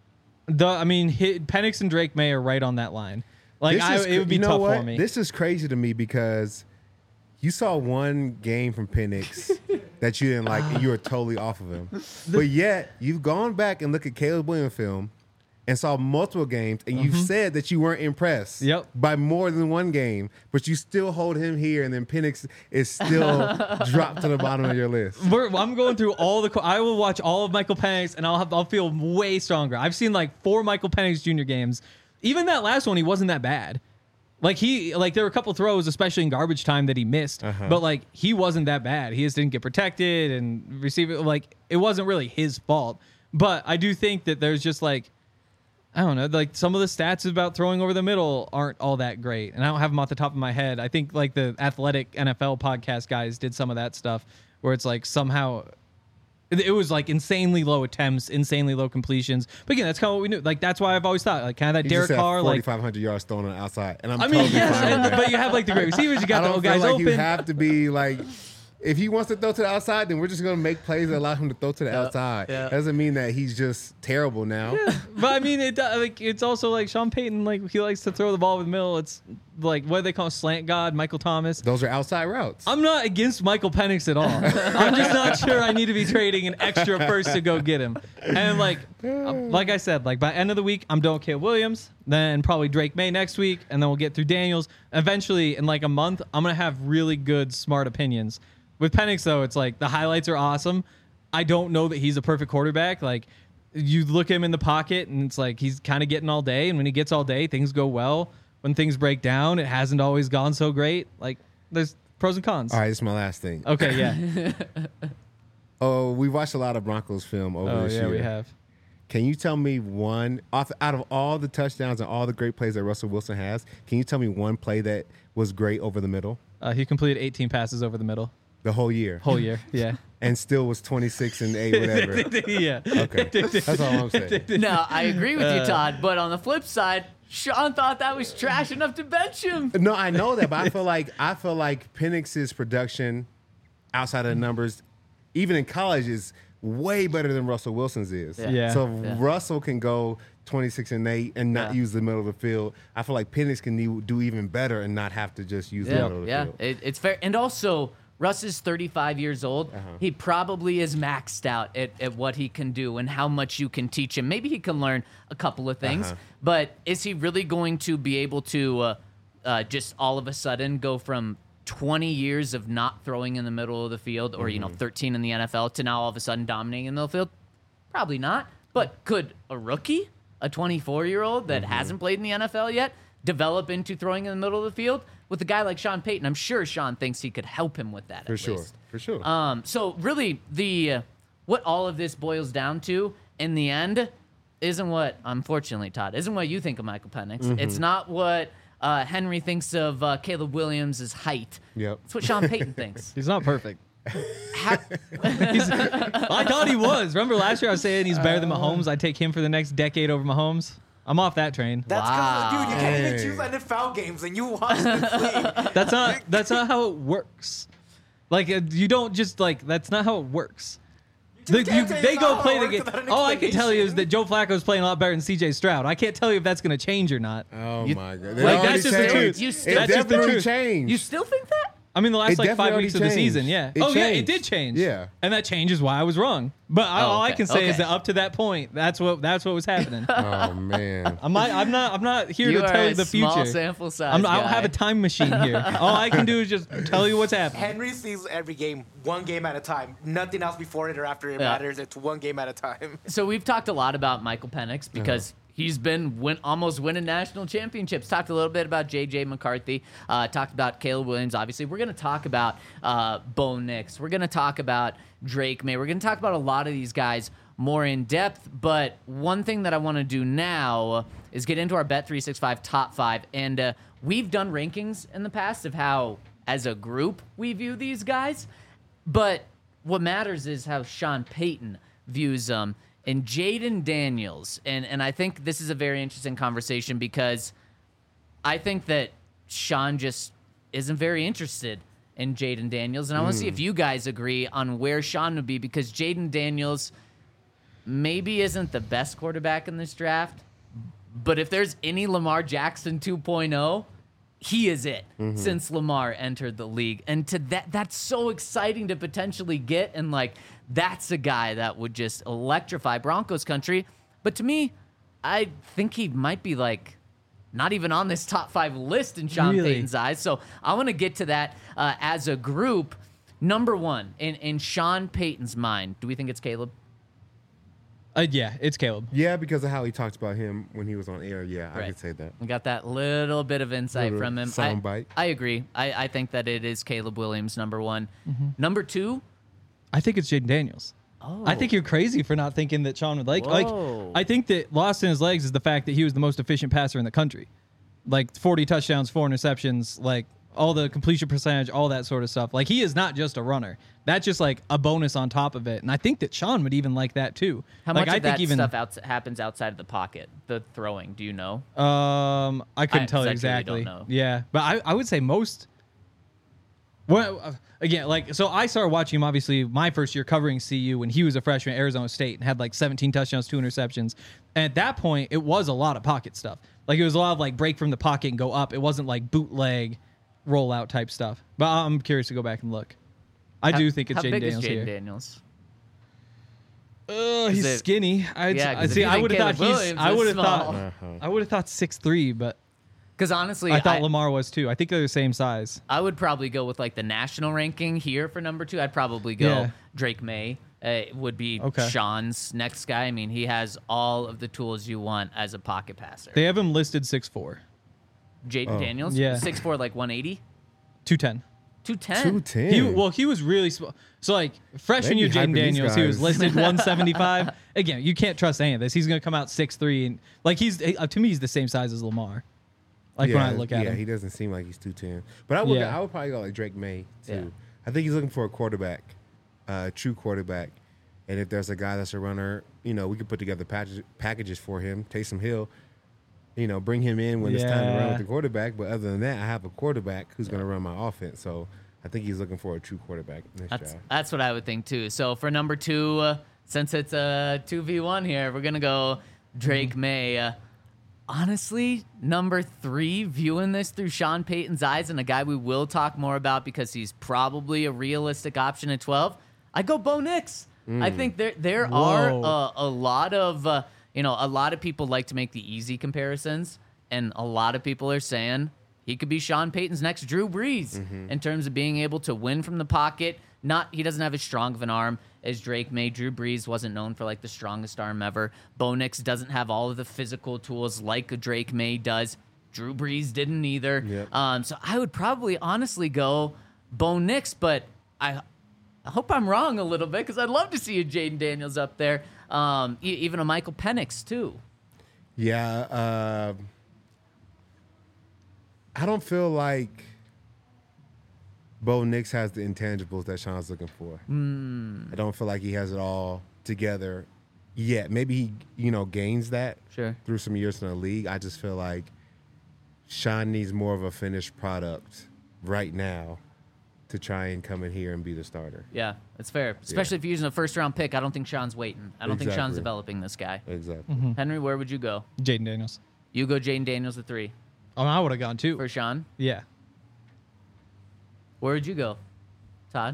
Penix and Drake May are right on that line. Like This is it would be you know tough what? for me. This is crazy to me because you saw one game from Penix that you didn't like, and you were totally off of him. But yet you've gone back and looked at Caleb Williams film and saw multiple games, and you've said that you weren't impressed Yep. by more than one game, but you still hold him here, and then Penix is still dropped to the bottom of your list. I'm going through all the. I will watch all of Michael Penix, and I'll feel way stronger. I've seen like 4 Michael Penix Jr. games. Even that last one, he wasn't that bad. Like there were a couple throws, especially in garbage time, that he missed. But like he wasn't that bad. He just didn't get protected and receive it. Like it wasn't really his fault. But I do think that there's just like, I don't know, like some of the stats about throwing over the middle aren't all that great. And I don't have them off the top of my head. I think like the Athletic NFL podcast guys did some of that stuff where it's like somehow it was like insanely low attempts, insanely low completions. But again, that's kind of what we knew. Like that's why I've always thought like kind of that He just Derek had Carr, like 4,500 yards thrown on the outside, and I'm I mean, totally yes, fine with that. but you have like the great receivers. You got I the don't old feel guys like open. you have to be like, if he wants to throw to the outside, then we're just gonna make plays that allow him to throw to the outside. yeah. Doesn't mean that he's just terrible now. But I mean, it's also like Sean Payton, like he likes to throw the ball over the middle. It's like what do they call it? Slant God, Michael Thomas. Those are outside routes. I'm not against Michael Penix at all. I'm just not sure I need to be trading an extra first to go get him. And like I said, like by end of the week, I'm done with Caleb Williams. Then probably Drake May next week, and then we'll get through Daniels. Eventually, in like a month, I'm gonna have really good, smart opinions. With Penix, though, it's like the highlights are awesome. I don't know that he's a perfect quarterback. Like you look him in the pocket, and it's like he's kind of getting all day. And when he gets all day, things go well. When things break down, it hasn't always gone so great. Like there's pros and cons. All right, this is my last thing. Okay, yeah. Oh, we watched a lot of Broncos film over Oh this yeah, year. we have. Can you tell me one out of all the touchdowns and all the great plays that Russell Wilson has? Can you tell me one play that was great over the middle He completed 18 passes over the middle the whole year, whole year. Yeah. and still was 26 and 8, whatever? Yeah. Okay, that's all I'm saying. No, I agree with you, Todd. But on the flip side, Sean thought that was trash enough to bench him. No, I know that, but I feel like Penix's production outside of the numbers, even in college, is way better than Russell Wilson's is. Yeah. So if Russell can go 26-8 and not use the middle of the field, I feel like Penix can do even better and not have to just use the middle of the field. It's fair. And also, Russ is 35 years old. He probably is maxed out at what he can do and how much you can teach him. Maybe he can learn a couple of things, but is he really going to be able to just all of a sudden go from 20 years of not throwing in the middle of the field or, 13 in the NFL to now all of a sudden dominating in the middle of the field? Probably not. But could a rookie, a 24-year-old that hasn't played in the NFL yet, develop into throwing in the middle of the field? With a guy like Sean Payton, I'm sure Sean thinks he could help him with that. For sure. So really, what all of this boils down to in the end isn't what, unfortunately, Todd, isn't what you think of Michael Penix. It's not what Henry thinks of Caleb Williams' height. Yep. It's what Sean Payton thinks. He's not perfect. I thought he was. Remember last year I was saying he's better than Mahomes? I'd take him for the next decade over Mahomes. I'm off that train. That's because, dude, you can't even Hey. choose NFL games and you watch the sleep. That's not how it works. Like you don't just like. That's not how it works. just can't tell you They it's go not play how the it game. works without an All I can tell you is explanation. that Joe Flacco's playing a lot better than C.J. Stroud. I can't tell you if that's going to change or not. Oh, my God. like, that's just the truth. You still, It That's just the definitely truth. changed. you still think that? I mean, the last It like 5 definitely weeks of the changed. season, yeah. It Yeah, it changed. did change. Yeah. And that changes why I was wrong. But all I okay, can say is okay. that up to that point, that's what was happening. Oh, man. I'm not here You to are tell a you the small future. sample size. I don't have guy. a time machine here. All I can do is just tell you what's happening. Henry sees every game, one game at a time. Nothing else before it or after it matters. It's one game at a time. So we've talked a lot about Michael Penix because he's been almost winning national championships. Talked a little bit about J.J. McCarthy. Talked about Caleb Williams, obviously. We're going to talk about Bo Nix. We're going to talk about Drake May. We're going to talk about a lot of these guys more in depth. But one thing that I want to do now is get into our Bet365 top 5. And we've done rankings in the past of how, as a group, we view these guys. But what matters is how Sean Payton views them. And Jaden Daniels, and I think this is a very interesting conversation because I think that Sean just isn't very interested in Jaden Daniels. And I want to see if you guys agree on where Sean would be because Jaden Daniels maybe isn't the best quarterback in this draft. But if there's any Lamar Jackson 2.0, he is it since Lamar entered the league. And to that's so exciting to potentially get. And like, that's a guy that would just electrify Broncos country. But to me, I think he might be like not even on this top 5 list in Sean Really? Payton's eyes. So I want to get to that as a group. Number one, in Sean Payton's mind, do we think it's Caleb? Yeah, it's Caleb. Yeah, because of how he talked about him when he was on air. Yeah, I Right. could say that. We got that little bit of insight Little from him. soundbite. I agree. I think that it is Caleb Williams, number one. Mm-hmm. Number two, I think it's Jaden Daniels. oh, I think you're crazy for not thinking that Sean would like. Whoa. I think that lost in his legs is the fact that he was the most efficient passer in the country. Like 40 touchdowns, 4 interceptions, like all the completion percentage, all that sort of stuff. Like he is not just a runner. That's just like a bonus on top of it. And I think that Sean would even like that too. How like much I of think that even stuff happens outside of the pocket, the throwing? Do you know? I couldn't tell you I truly don't exactly. know. Yeah, but I would say most. Well, again, like so, I started watching him obviously my first year covering CU when he was a freshman at Arizona State and had like 17 touchdowns, 2 interceptions. And at that point, it was a lot of pocket stuff. Like it was a lot of like break from the pocket and go up. It wasn't like bootleg, rollout type stuff. But I'm curious to go back and look. I do think it's how Jaden big Daniels is Jaden here. Daniels? He's it- skinny. Yeah, 'cause if See. you I think would have Caleb thought he's. Williams I is would have small. thought. I would have thought 6'3", but Because honestly, I thought Lamar was too. I think they're the same size. I would probably go with like the national ranking here for number 2. I'd probably go Yeah. Drake May. Would be Okay. Sean's next guy. I mean, he has all of the tools you want as a pocket passer. They have him listed 6'4", Jaden Daniels, Yeah. 6'4", like 180, 210. 210. 210. He was really small. So like freshman They year, be Jaden hyping these Daniels, he was guys. listed 175. Again, you can't trust any of this. He's gonna come out 6'3", and like he's to me he's the same size as Lamar. Like when I look at yeah, him. he doesn't seem like he's 210. But I would Yeah. probably go like Drake May too. Yeah. I think he's looking for a quarterback, true quarterback. And if there's a guy that's a runner, we could put together packages for him. Taysom Hill, bring him in when it's time to run Yeah. with the quarterback. But other than that, I have a quarterback who's going to run my offense. So I think he's looking for a true quarterback in this draft. That's what I would think too. So for number 2, since it's a 2v1 here, we're gonna go Drake May. Honestly, number 3, viewing this through Sean Payton's eyes, and a guy we will talk more about because he's probably a realistic option at 12. I go Bo Nix. I think there are a lot of a lot of people like to make the easy comparisons, and a lot of people are saying he could be Sean Payton's next Drew Brees in terms of being able to win from the pocket. He doesn't have as strong of an arm as Drake May. Drew Brees wasn't known for like the strongest arm ever. Bo Nix doesn't have all of the physical tools like a Drake May does. Drew Brees didn't either. Yep. So I would probably honestly go Bo Nix, but I hope I'm wrong a little bit because I'd love to see a Jaden Daniels up there, even a Michael Penix too. Yeah. I don't feel like Bo Nix has the intangibles that Sean's looking for. I don't feel like he has it all together yet. Maybe he, gains that through some years in the league. I just feel like Sean needs more of a finished product right now to try and come in here and be the starter. Yeah, that's fair. Especially if you're using a first-round pick. I don't think Sean's waiting. I don't think Sean's developing this guy. Exactly. Henry, where would you go? Jaden Daniels. You go Jaden Daniels at 3. Oh, I would have gone 2. For Sean? Yeah. Where would you go, Todd?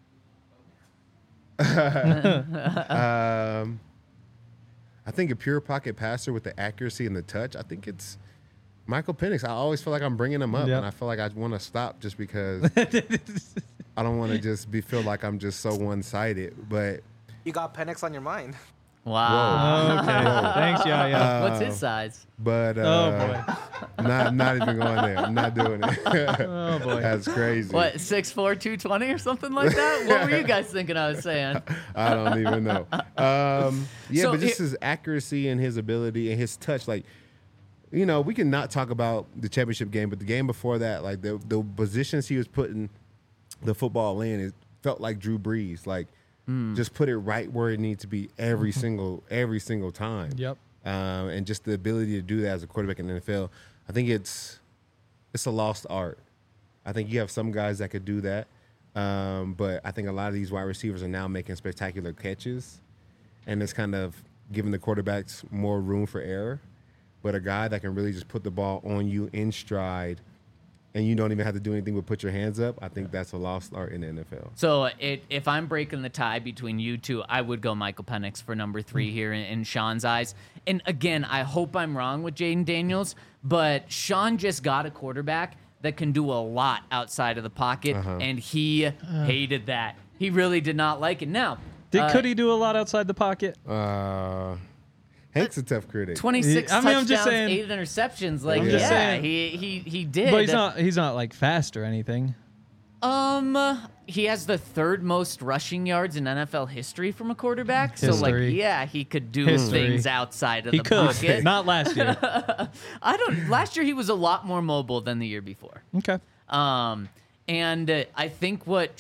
I think a pure pocket passer with the accuracy and the touch, I think it's Michael Penix. I always feel like I'm bringing him up, and I feel like I want to stop just because I don't want to just feel like I'm just so one-sided. But You got Penix on your mind. Wow. Okay. Thanks, yeah. What's his size? But Oh, boy. not even going there. I'm not doing it. Oh, boy. That's crazy. What, 6'4", 220 or something like that? What were you guys thinking I was saying? I don't even know. So but just his accuracy and his ability and his touch, like, we can not talk about the championship game, but the game before that, like the positions he was putting the football in, it felt like Drew Brees. Like, just put it right where it needs to be every single time. Yep. And just the ability to do that as a quarterback in the NFL, I think it's a lost art. I think you have some guys that could do that, but I think a lot of these wide receivers are now making spectacular catches, and it's kind of giving the quarterbacks more room for error. But a guy that can really just put the ball on you in stride, and you don't even have to do anything but put your hands up, I think that's a lost art in the NFL. So if I'm breaking the tie between you two, I would go Michael Penix for number 3 here in Sean's eyes. And again, I hope I'm wrong with Jaden Daniels, but Sean just got a quarterback that can do a lot outside of the pocket, and he hated that. He really did not like it. Now, Could he do a lot outside the pocket? Hank's a tough critic. 26 I mean, I'm touchdowns, just saying- 8 interceptions. Like, I'm just saying. he did. But he's not like fast or anything. He has the 3rd most rushing yards in NFL history from a quarterback. So, like, History. yeah, he could do History. things outside of He the could. pocket. Not last year. Last year he was a lot more mobile than the year before. Okay. And I think what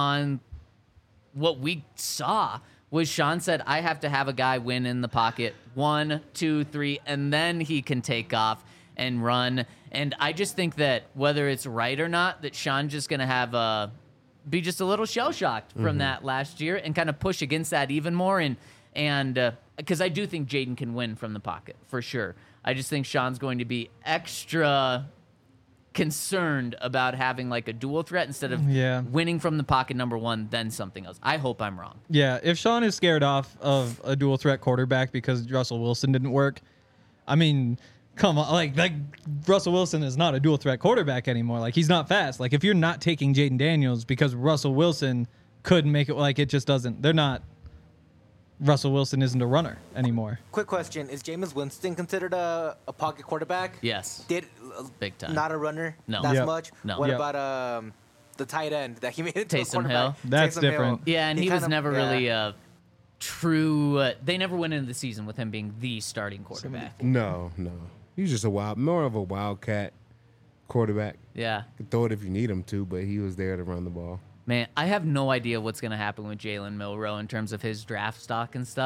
we saw was Sean said, I have to have a guy win in the pocket 1, 2, 3, and then he can take off and run. And I just think that whether it's right or not, that Sean's just going to be just a little shell-shocked from that last year and kind of push against that even more. And because I do think Jaden can win from the pocket, for sure. I just think Sean's going to be extra concerned about having like a dual threat instead of winning from the pocket number 1, then something else. I hope I'm wrong. Yeah, if Sean is scared off of a dual threat quarterback because Russell Wilson didn't work, I mean, come on, like Russell Wilson is not a dual threat quarterback anymore. Like, he's not fast. Like, if you're not taking Jaden Daniels because Russell Wilson couldn't make it, like, it just doesn't. They're not. Russell Wilson isn't a runner anymore. Quick question: is Jameis Winston considered a pocket quarterback? Yes. Big time. Not a runner. No. As Yep. much. No. What Yep. about the tight end that he made into a Taysom quarterback? Hill? That's Taysom different. Hill. Yeah, and he was kind of- never yeah. really a true. They never went into the season with him being the starting quarterback. No. He's just more of a wildcat quarterback. Yeah. Could throw it if you need him to, but he was there to run the ball. Man, I have no idea what's going to happen with Jalen Milroe in terms of his draft stock and stuff.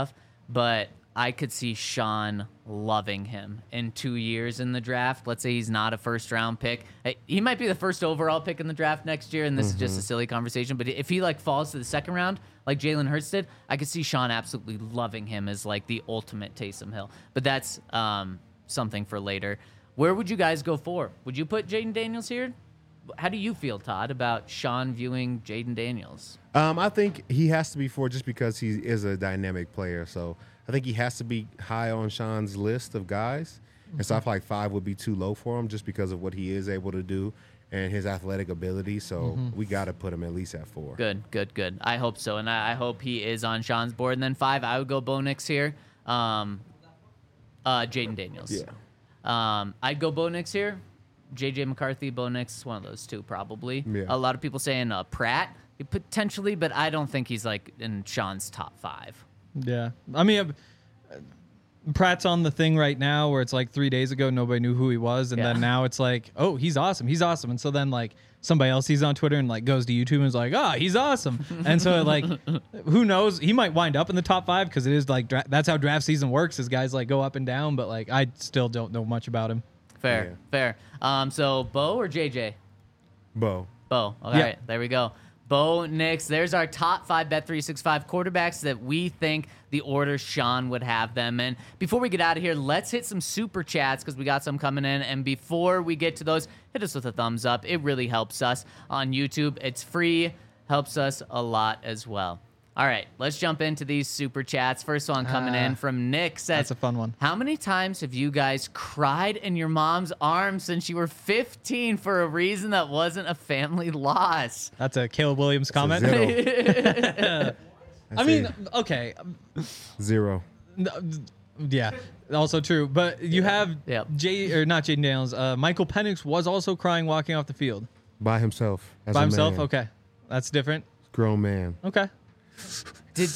but I could see Sean loving him in 2 years in the draft. Let's say he's not a first-round pick. He might be the first overall pick in the draft next year, and this is just a silly conversation. But if he like falls to the second round, like Jalen Hurts did, I could see Sean absolutely loving him as like the ultimate Taysom Hill. But that's something for later. Where would you guys go for? Would you put Jaden Daniels here? How do you feel, Todd, about Sean viewing Jaden Daniels? I think he has to be 4 just because he is a dynamic player. So I think he has to be high on Sean's list of guys. And so I feel like 5 would be too low for him just because of what he is able to do and his athletic ability. So we got to put him at least at 4. Good. I hope so. And I hope he is on Sean's board. And then 5, I would go Bo Nix here. Jaden Daniels. Yeah. I'd go Bo Nix here. J.J. McCarthy, Bo Nix is one of those two, probably. Yeah. A lot of people saying Pratt, potentially, but I don't think he's like in Sean's top 5. Yeah. I mean, Pratt's on the thing right now where it's like 3 days ago, nobody knew who he was. And then now it's like, oh, he's awesome. And so then like somebody else sees on Twitter and like goes to YouTube and is like, oh, he's awesome. And so like, who knows? He might wind up in the top 5 because it is like, that's how draft season works is guys like go up and down. But like, I still don't know much about him. Fair. So Bo or JJ? Bo. All right, there we go. Bo Nix. There's our top 5 Bet365 quarterbacks that we think the order Sean would have them in. Before we get out of here, let's hit some super chats because we got some coming in. And before we get to those, hit us with a thumbs up. It really helps us on YouTube. It's free, helps us a lot as well. All right, let's jump into these super chats. First one coming in from Nick says, That's a fun one. How many times have you guys cried in your mom's arms since you were 15 for a reason that wasn't a family loss? That's a Caleb Williams comment. Zero. I mean, okay. 0. Yeah, also true. But you have Yep. not Jaden Daniels. Michael Penix was also crying walking off the field. By himself. As By a himself? man. Okay. That's different. Grown man. Okay. Did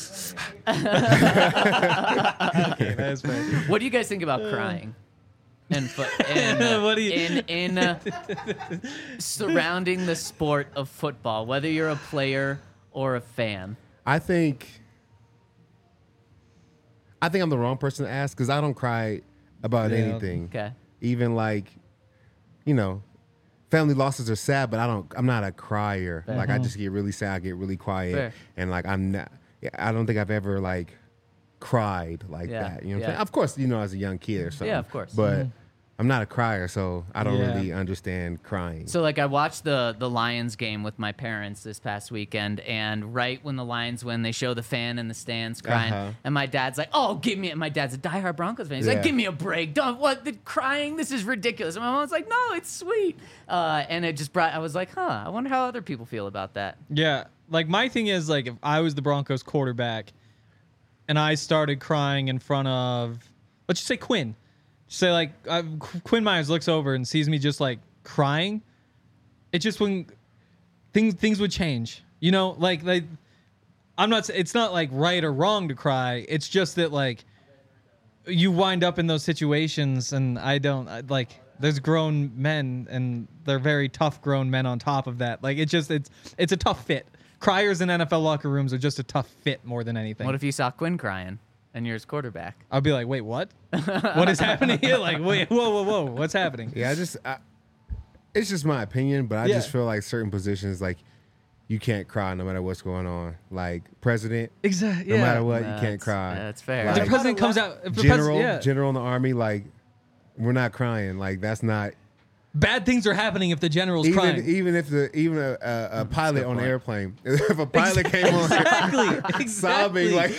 That is fair. What do you guys think about crying? And What do you- in surrounding the sport of football, whether you're a player or a fan. I think I'm the wrong person to ask because I don't cry about Yeah. anything. Okay. Even like, family losses are sad, but I'm not a crier. Fair. Like I just get really sad, I get really quiet, Fair. and like I don't think I've ever like cried like Yeah, that. You know what I'm yeah. saying? Of course, as a young kid or something. Yeah, of course. But I'm not a crier, so I don't Yeah. really understand crying. So like I watched the Lions game with my parents this past weekend, and right when the Lions win, they show the fan in the stands crying, and my dad's like, "Oh, give me!" And my dad's a diehard Broncos fan. He's like, Yeah. "Give me a break! Don't the crying. This is ridiculous." And my mom's like, "No, it's sweet." And it just I was like, "Huh? I wonder how other people feel about that." Yeah. Like my thing is like if I was the Broncos quarterback and I started crying in front of, let's just say Quinn. Say like Quinn Myers looks over and sees me just like crying. It just when things would change, like I'm not. It's not like right or wrong to cry. It's just that like you wind up in those situations, and I don't like. There's grown men, and they're very tough grown men. On top of that, like it's a tough fit. Criers in NFL locker rooms are just a tough fit more than anything. What if you saw Quinn crying and you're his quarterback? I'd be like, wait, what? What is happening here? Like, wait, whoa, what's happening? Yeah, it's just my opinion, but I just feel like certain positions, like, you can't cry no matter what's going on. Like, president, Exactly. no matter what, you can't cry. That's fair. If the Like, president comes out, if the general, president, general in the army, like, we're not crying. Like, that's not. bad things are happening if the general's crying. Even if a pilot on an airplane, if a pilot came on Exactly. sobbing, like,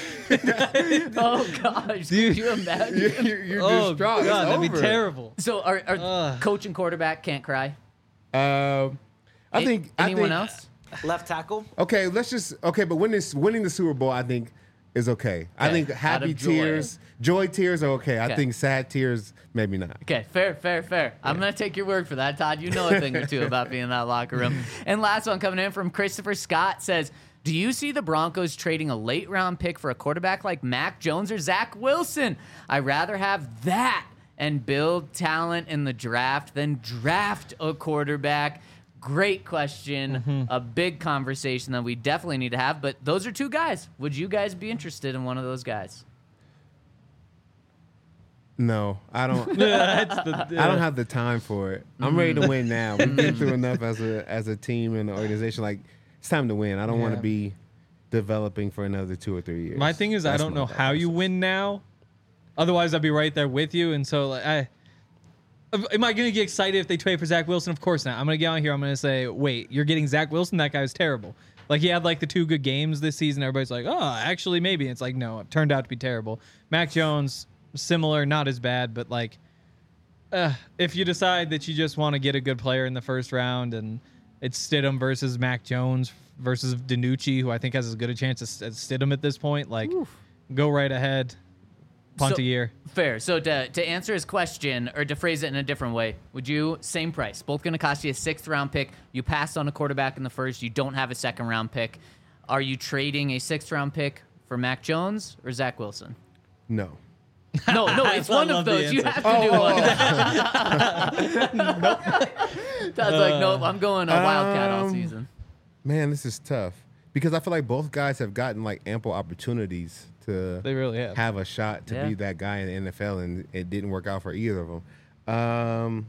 Oh gosh, Dude. could you imagine? you're Oh distraught. It's god, that'd be over. terrible. So are coach and quarterback can't cry? I think Anyone else? Left tackle. Okay, but winning the Super Bowl, I think, is okay. I think out happy of joy. tears, joy tears are okay. I Okay. think sad tears, maybe not. Okay, fair. I'm going to take your word for that, Todd. You know a thing or two about being in that locker room. And last one coming in from Christopher Scott says, do you see the Broncos trading a late round pick for a quarterback like Mac Jones or Zach Wilson? I'd rather have that and build talent in the draft than draft a quarterback. Great question. A big conversation that we definitely need to have. But those are two guys. Would you guys be interested in one of those guys? No, I don't. That's the, I don't have the time for it. I'm ready to win now. We've been through enough as a team and an organization. Like, it's time to win. I don't want Yeah. to be developing for another 2 or 3 years. My thing is, I That's don't my know thought how you process. win now. Otherwise, I'd be right there with you. And so, like, am I going to get excited if they trade for Zach Wilson? Of course not. I'm going to get on here. I'm going to say, wait, you're getting Zach Wilson? That guy was terrible. Like, he had like the 2 good games this season. Everybody's like, oh, actually, maybe. It's like, no, it turned out to be terrible. Mac Jones, similar, not as bad, but like, if you decide that you just want to get a good player in the first round and it's Stidham versus Mac Jones versus DiNucci, who I think has as good a chance as Stidham at this point, like, go right ahead. Punt So- a year. Fair. So to answer his question, or to phrase it in a different way, would you, same price, both going to cost you a 6th round pick, you passed on a quarterback in the first, you don't have a 2nd round pick, are you trading a 6th round pick for Mac Jones or Zach Wilson? No. No, it's one of love the those. You answer. have to do one. I was like, nope, I'm going a Wildcat all season. Man, this is tough because I feel like both guys have gotten like ample opportunities to They really have. a shot to Yeah. be that guy in the NFL, and it didn't work out for either of them.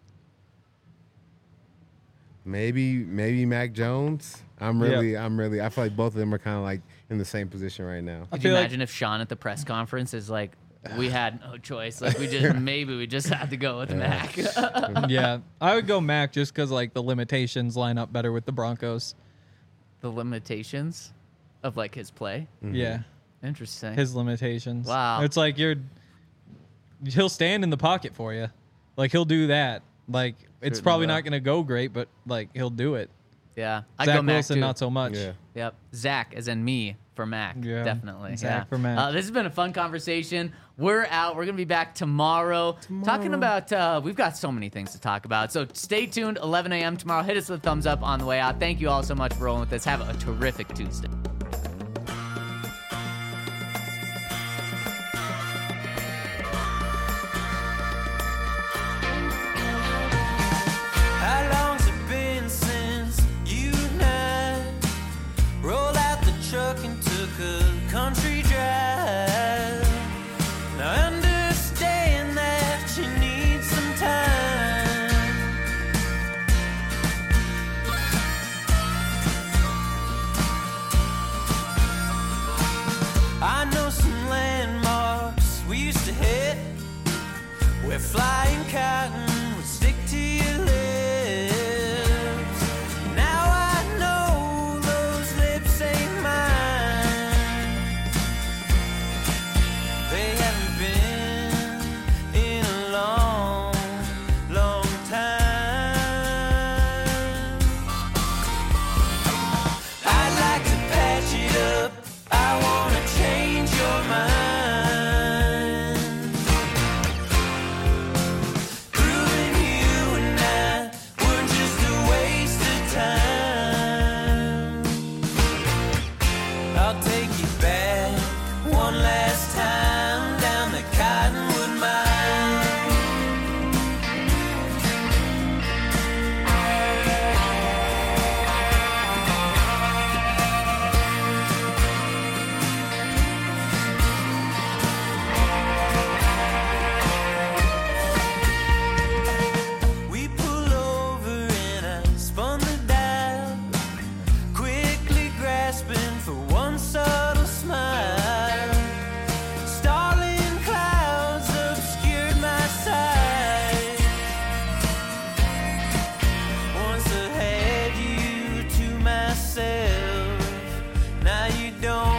Maybe Mac Jones. I feel like both of them are kind of like in the same position right now. Could you feel like- imagine if Sean at the press conference is like, we had no choice. Like, we just had to go with Mac. Yeah, I would go Mac just because like the limitations line up better with the Broncos. The limitations of like his play. Yeah, Interesting. his limitations. Wow. It's like he'll stand in the pocket for you, like he'll do that. Like it's Certainly probably will. not going to go great, but like he'll do it. Yeah. I Zach go Mac Wilson too. not so much. Yeah. Yep. Zach, as in me, for Mac. Yeah. Definitely. Zach yeah. for Mac. This has been a fun conversation. We're out. We're going to be back tomorrow. Talking about, we've got so many things to talk about. So stay tuned, 11 a.m. tomorrow. Hit us with a thumbs up on the way out. Thank you all so much for rolling with us. Have a terrific Tuesday. How long's it been since you and I rolled out the truck and took a country drive? Now I understand that you need some time. I know some landmarks we used to hit where flying cotton would stick to your lips. Now I know those lips ain't mine. They haven't been in a long, long time. I'd like to patch it up. I wanna change your mind. Proving you and I were just a waste of time. I'll take you back one last time down the Cottonwood Mine. We pull over and I spun the dial, quickly grasping for one subtle smile. Starling clouds obscured my sight. Once I had you to myself, now you don't